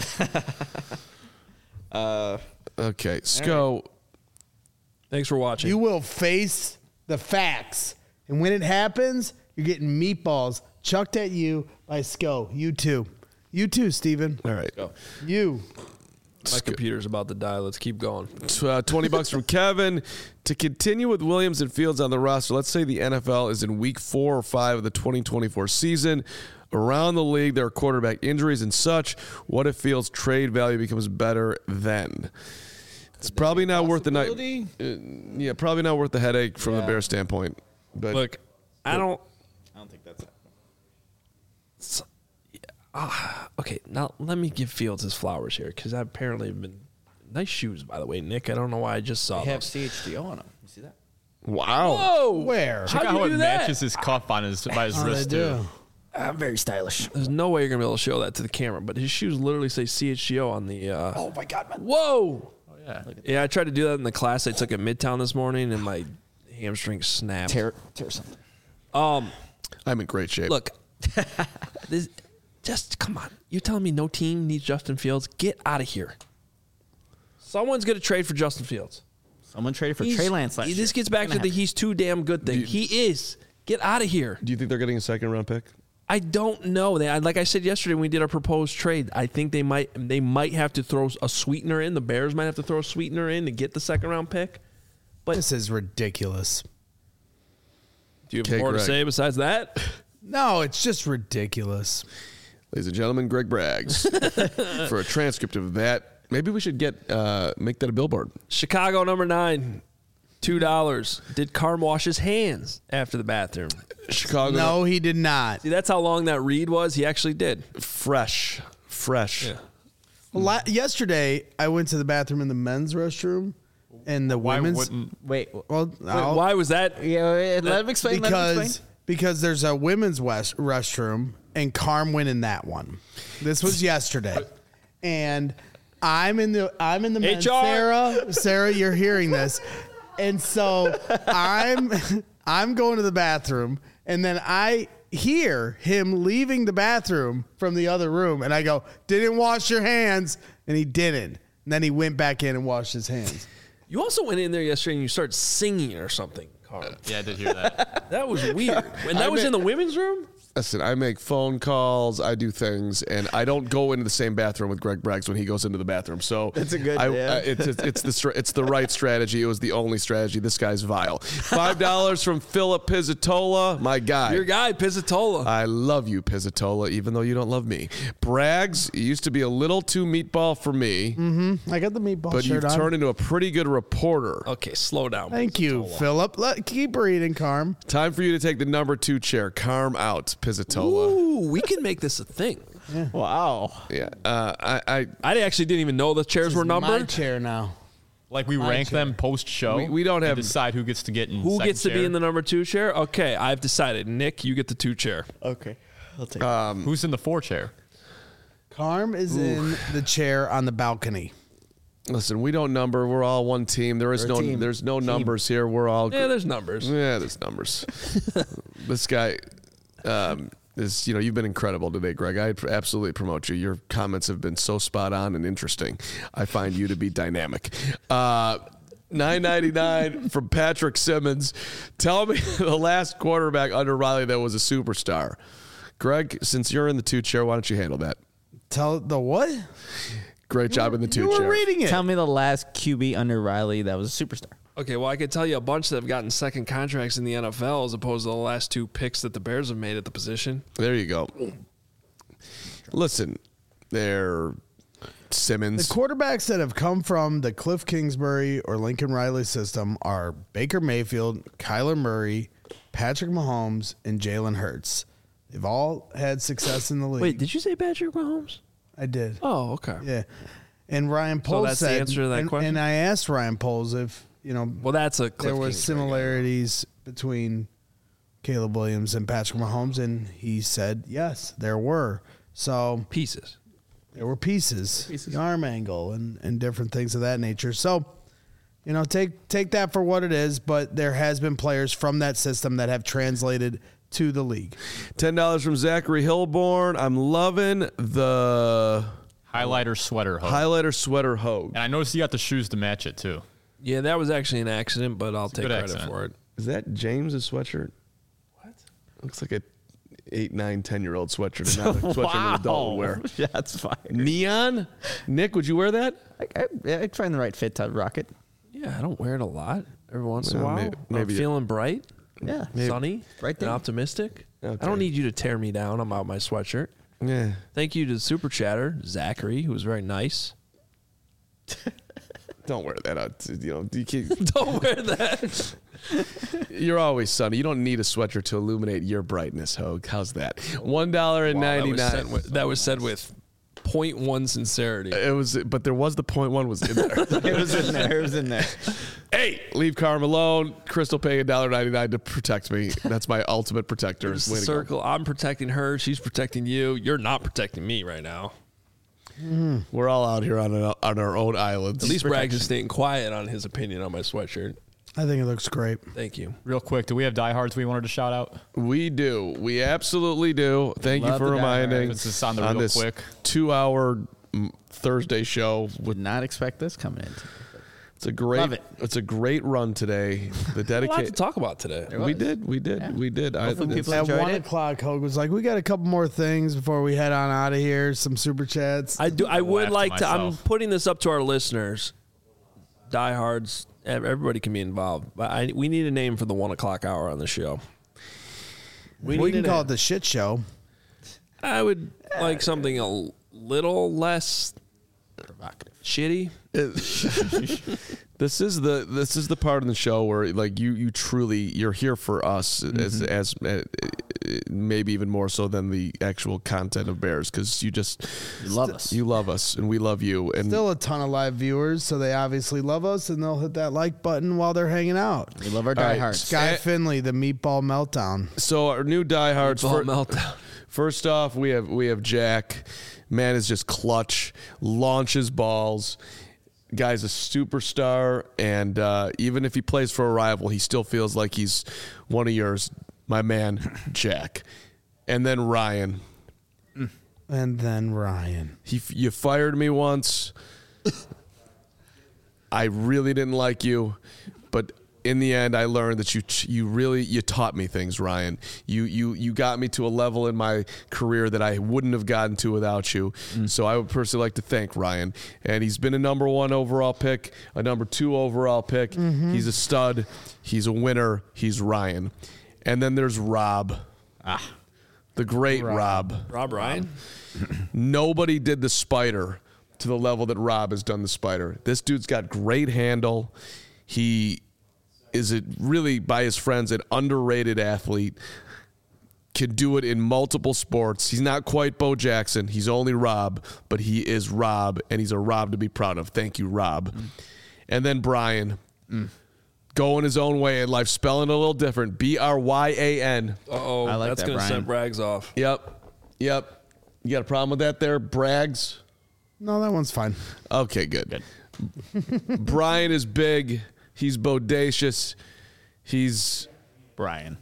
Okay, Sco. Thanks for watching. You will face the facts. And when it happens, you're getting meatballs chucked at you by Sco. You too. You too, Steven. All right. You. My computer's about to die. Let's keep going. $20 from Kevin. To continue with Williams and Fields on the roster, let's say the NFL is in week 4 or 5 of the 2024 season. Around the league, there are quarterback injuries and such. What if Fields' trade value becomes better then? It's probably not worth the night. Yeah, probably not worth the headache from the Bears standpoint. But Look, I don't think that's okay, now let me give Fields his flowers here because I apparently have been nice shoes, by the way, Nick. I don't know why I just saw They have those. CHGO on them. You see that? wow. Whoa! Where? Check out How'd you how do it that? matches his cuff on his by his Oh, they wrist do. too. I'm very stylish. There's no way you're gonna be able to show that to the camera, but his shoes literally say CHGO on the. Oh my God, man. Whoa! Yeah. Yeah, I tried to do that in the class I took at Midtown this morning, and my hamstring snapped. Tear something. I'm in great shape. Look, this, just come on. You're telling me no team needs Justin Fields? Get out of here. Someone's going to trade for Justin Fields. Someone traded for Trey Lance last year. This gets back to the he's too damn good thing. He is. Get out of here. Do you think they're getting a second-round pick? I don't know. Like I said yesterday when we did our proposed trade, I think they might have to throw a sweetener in. The Bears might have to throw a sweetener in to get the second-round pick. But This is ridiculous. do you have Okay, more to Greg. say besides that? No, it's just ridiculous. Ladies and gentlemen, Greg Braggs. For a transcript of that, maybe we should make that a billboard. Chicago number 9, $2. Did Carm wash his hands after the bathroom? Chicago. No, he did not. See, that's how long that read was. He actually did. Fresh. Yeah. Yesterday, I went to the bathroom in the men's restroom and the Why women's. wouldn't Well, Wait, why was that? Yeah, let him explain. Because there's a women's restroom and Carm went in that one. This was yesterday, and I'm in the men's. HR. Sarah, you're hearing this, and so I'm going to the bathroom, and then I hear him leaving the bathroom from the other room. And I go, didn't wash your hands. And he didn't. And then he went back in and washed his hands. You also went in there yesterday and you started singing or something, Carl. Yeah, I did hear that. That was weird. And that was in the women's room? Listen, I make phone calls, I do things, and I don't go into the same bathroom with Greg Braggs when he goes into the bathroom. So That's a good- it's the right strategy. It was the only strategy. This guy's vile. $5 from Philip Pizzatola, my guy. Your guy, Pizzatola. I love you, Pizzatola, even though you don't love me. Braggs, you used to be a little too meatball for me, I got the meatball but shirt you've on. turned into a pretty good reporter. Okay, slow down. Thank you, Philip. Keep reading, Carm. Time for you to take the number 2 chair. Carm out, Pizzatola. Ooh, we can make this a thing. Wow. Yeah, I I actually didn't even know the chairs were My numbered. chair now. Like we rank them post show. We don't have- decide who gets to get in. Who second gets to be chair. in the number 2 chair? Okay, I've decided. Nick, you get the 2 chair. Okay. I'll take Who's in the 4 chair? Carm is in the chair on the balcony. Listen, we don't number. We're all one team. There's We're a team. no numbers here. We're all Yeah, there's numbers. Yeah, there's numbers. This guy is, you've been incredible today, Greg. I absolutely promote you. Your comments have been so spot on and interesting. I find you to be dynamic. $9.99 from Patrick Simmons. Tell me the last quarterback under Riley that was a superstar. Greg, since you're in the 2 chair, why don't you handle that? Tell the what? Great job in the 2 You chair. were reading it. Tell me the last QB under Riley that was a superstar. Okay, well, I could tell you a bunch that have gotten second contracts in the NFL as opposed to the last 2 picks that the Bears have made at the position. There you go. Listen, they're Simmons. The quarterbacks that have come from the Cliff Kingsbury or Lincoln Riley system are Baker Mayfield, Kyler Murray, Patrick Mahomes, and Jalen Hurts. They've all had success in the league. Wait, did you say Patrick Mahomes? I did. Oh, okay. Yeah. And Ryan Poles that's the said, answer to that question? And I asked Ryan Poles if, Well, that's a Cliff there was Kingsbury guy. similarities between Caleb Williams and Patrick Mahomes, and he said yes, there were. So Pieces. there were pieces. The arm angle, and different things of that nature. So, take that for what it is. But there has been players from that system that have translated to the league. $10 from Zachary Hilborn. I'm loving the Highlighter sweater. Hope. highlighter sweater Hogue. And I noticed you got the shoes to match it too. Yeah, that was actually an accident, but I'll take good credit accident. for it. Is that James's sweatshirt? What? Looks like a 8, 9, 10-year-old sweatshirt. Not a sweatshirt an adult would wear. That's fire. Neon? Nick, would you wear that? I'd find the right fit to rock it. Yeah, I don't wear it a lot. Every once in a Well, while. maybe I'm feeling bright, Yeah. sunny, Right and there. optimistic. Okay. I don't need you to tear me down about my sweatshirt. Yeah. Thank you to the super chatter, Zachary, who was very nice. Don't wear that out. You can't, Don't wear that. you're always sunny. You don't need a sweatshirt to illuminate your brightness, Hogue. How's that? $1.99. That was said with 0.1 sincerity. It was, but there was the .1 was in there. It was in there. It was in there. Hey, leave Carm alone. Crystal paying $1.99 to protect me. That's my ultimate protector. It's Way the to go. circle. I'm protecting her. She's protecting you. You're not protecting me right now. We're all out here on our own islands. At least Braggs is staying quiet on his opinion on my sweatshirt. I think it looks great. Thank you. Real quick, do we have diehards we wanted to shout out? We do. We absolutely do. Thank you Love for the reminding. This is on the real this quick. 2-hour Thursday show. Would not expect this coming in. It's a great. Love it. It's a great run today. The A lot to dedicated. talk about today. We did. Hopefully people At enjoyed 1 it. o'clock, Hogue was like, "We got a couple more things before we head on out of here. Some super chats." I would laugh like to to. I'm myself. putting this up to our listeners. Diehards. Everybody can be involved. But we need a name for the 1 o'clock hour on the show. We need can a call name. it the shit show. I would like something a little less shitty. This is the part of the show where like you truly you're here for us as maybe even more so than the actual content of Bears because you love us. You love us and we love you and Still a ton of live viewers, so they obviously love us, and they'll hit that like button while they're hanging out. We love our All right. diehards. Guy Finley, the meatball meltdown. so our new diehards. Ball meltdown. First off, we have Jack. Man is just clutch, launches balls. Guy's a superstar, and even if he plays for a rival, he still feels like he's one of yours. My man, Jack. and then Ryan. And then Ryan. You fired me once. I really didn't like you, but in the end, I learned that you taught me things, Ryan. You got me to a level in my career that I wouldn't have gotten to without you. So I would personally like to thank Ryan. And he's been a number 1 overall pick, a number 2 overall pick. He's a stud. He's a winner. He's Ryan. And then there's Rob. The great Rob. Rob Ryan? Nobody did the spider to the level that Rob has done the spider. This dude's got great handle. He is really, by his friends, an underrated athlete. Can do it in multiple sports. He's not quite Bo Jackson. He's only Rob, but he is Rob, and he's a Rob to be proud of. Thank you, Rob. And then Brian. Going his own way in life, spelling it a little different. Bryan. Uh-oh. I like that's that, going to Brian. set Braggs off. Yep. You got a problem with that there, Braggs? No, that one's fine. Okay, good. Brian is big. He's bodacious. He's Brian.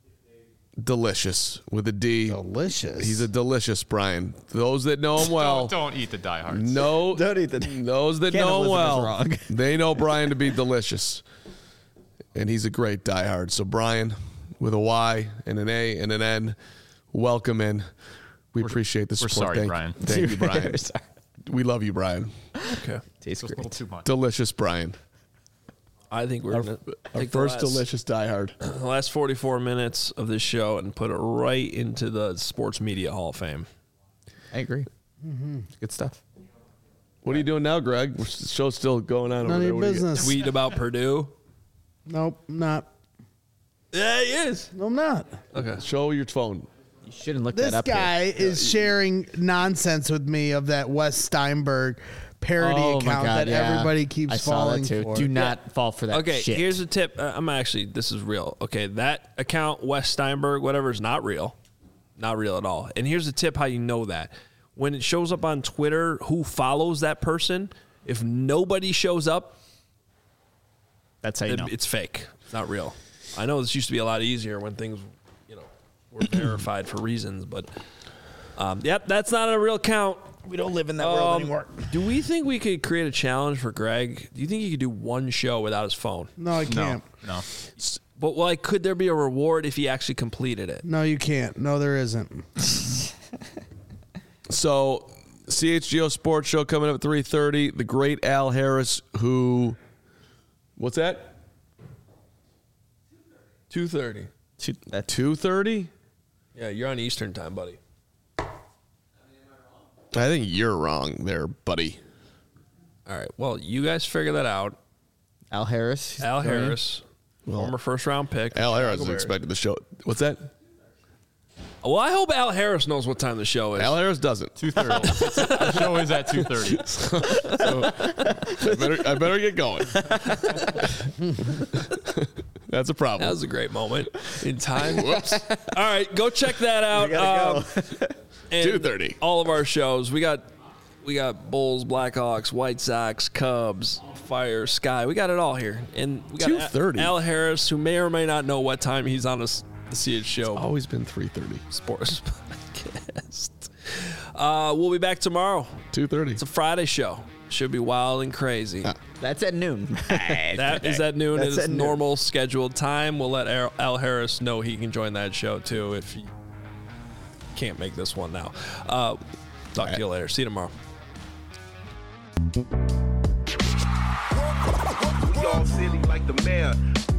delicious with a D. Delicious. He's a delicious Brian. Those that know him well. Don't eat the diehards. No, Don't eat the- those that know him Cannibalism is well, wrong. they know Brian to be delicious. And he's a great diehard. So Brian, with a Y and an A and an N, welcome in. We appreciate the support. sorry, Brian. Thank you, Brian. Sorry. We love you, Brian. Okay. Tastes Just a little great. too much. Delicious Brian. I think we're going to Our take first the last, delicious diehard. the last 44 minutes of this show and put it right into the Sports Media Hall of Fame. I agree. Good stuff. What are you doing now, Greg? The show's still going on None over of there. your What do you got? business. Tweet about Purdue. Nope, not. Yeah, he is. No, I'm not. Okay. Show your phone. You shouldn't look This that up. guy is sharing nonsense with me of that Wes Steinberg parody Oh my account God, that yeah. everybody keeps I saw falling that too. for. Do not fall for that Okay, shit. here's a tip. This is real. Okay, that account, Wes Steinberg, whatever, is not real. Not real at all. And here's a tip how you know that. When it shows up on Twitter, who follows that person, if nobody shows up, That's how you know. it's fake. It's not real. I know this used to be a lot easier when things, were verified for reasons, but yep, that's not a real account. We don't live in that world anymore. Do we think we could create a challenge for Greg? Do you think he could do one show without his phone? No, I can't. No. But could there be a reward if he actually completed it? No, you can't. No, there isn't. So, CHGO Sports Show coming up at 3:30. The great Al Harris, who, what's that? 2:30. 2:30? Yeah, you're on Eastern time, buddy. I think you're wrong there, buddy. All right. Well, you guys figure that out. Al Harris. Al Harris, former first-round pick. Al Harris Chicago is Bears. expected to show. What's that? Well, I hope Al Harris knows what time the show is. Al Harris doesn't. 2:30. The show is at 2:30. I better get going. That's a problem. That was a great moment in time. Whoops. All right, go check that out. And 2:30. All of our shows. We got Bulls, Blackhawks, White Sox, Cubs, Fire, Sky. We got it all here. And we got 2:30. Al Harris, who may or may not know what time he's on the CH show. Always been 3:30. Sports podcast. We'll be back tomorrow. 2:30. It's a Friday show. Should be wild and crazy. That's at noon. That is at noon. That's It is at noon. normal scheduled time. We'll let Al Harris know he can join that show too if he can't make this one now. Talk to you later. See you tomorrow. We all silly like the mayor.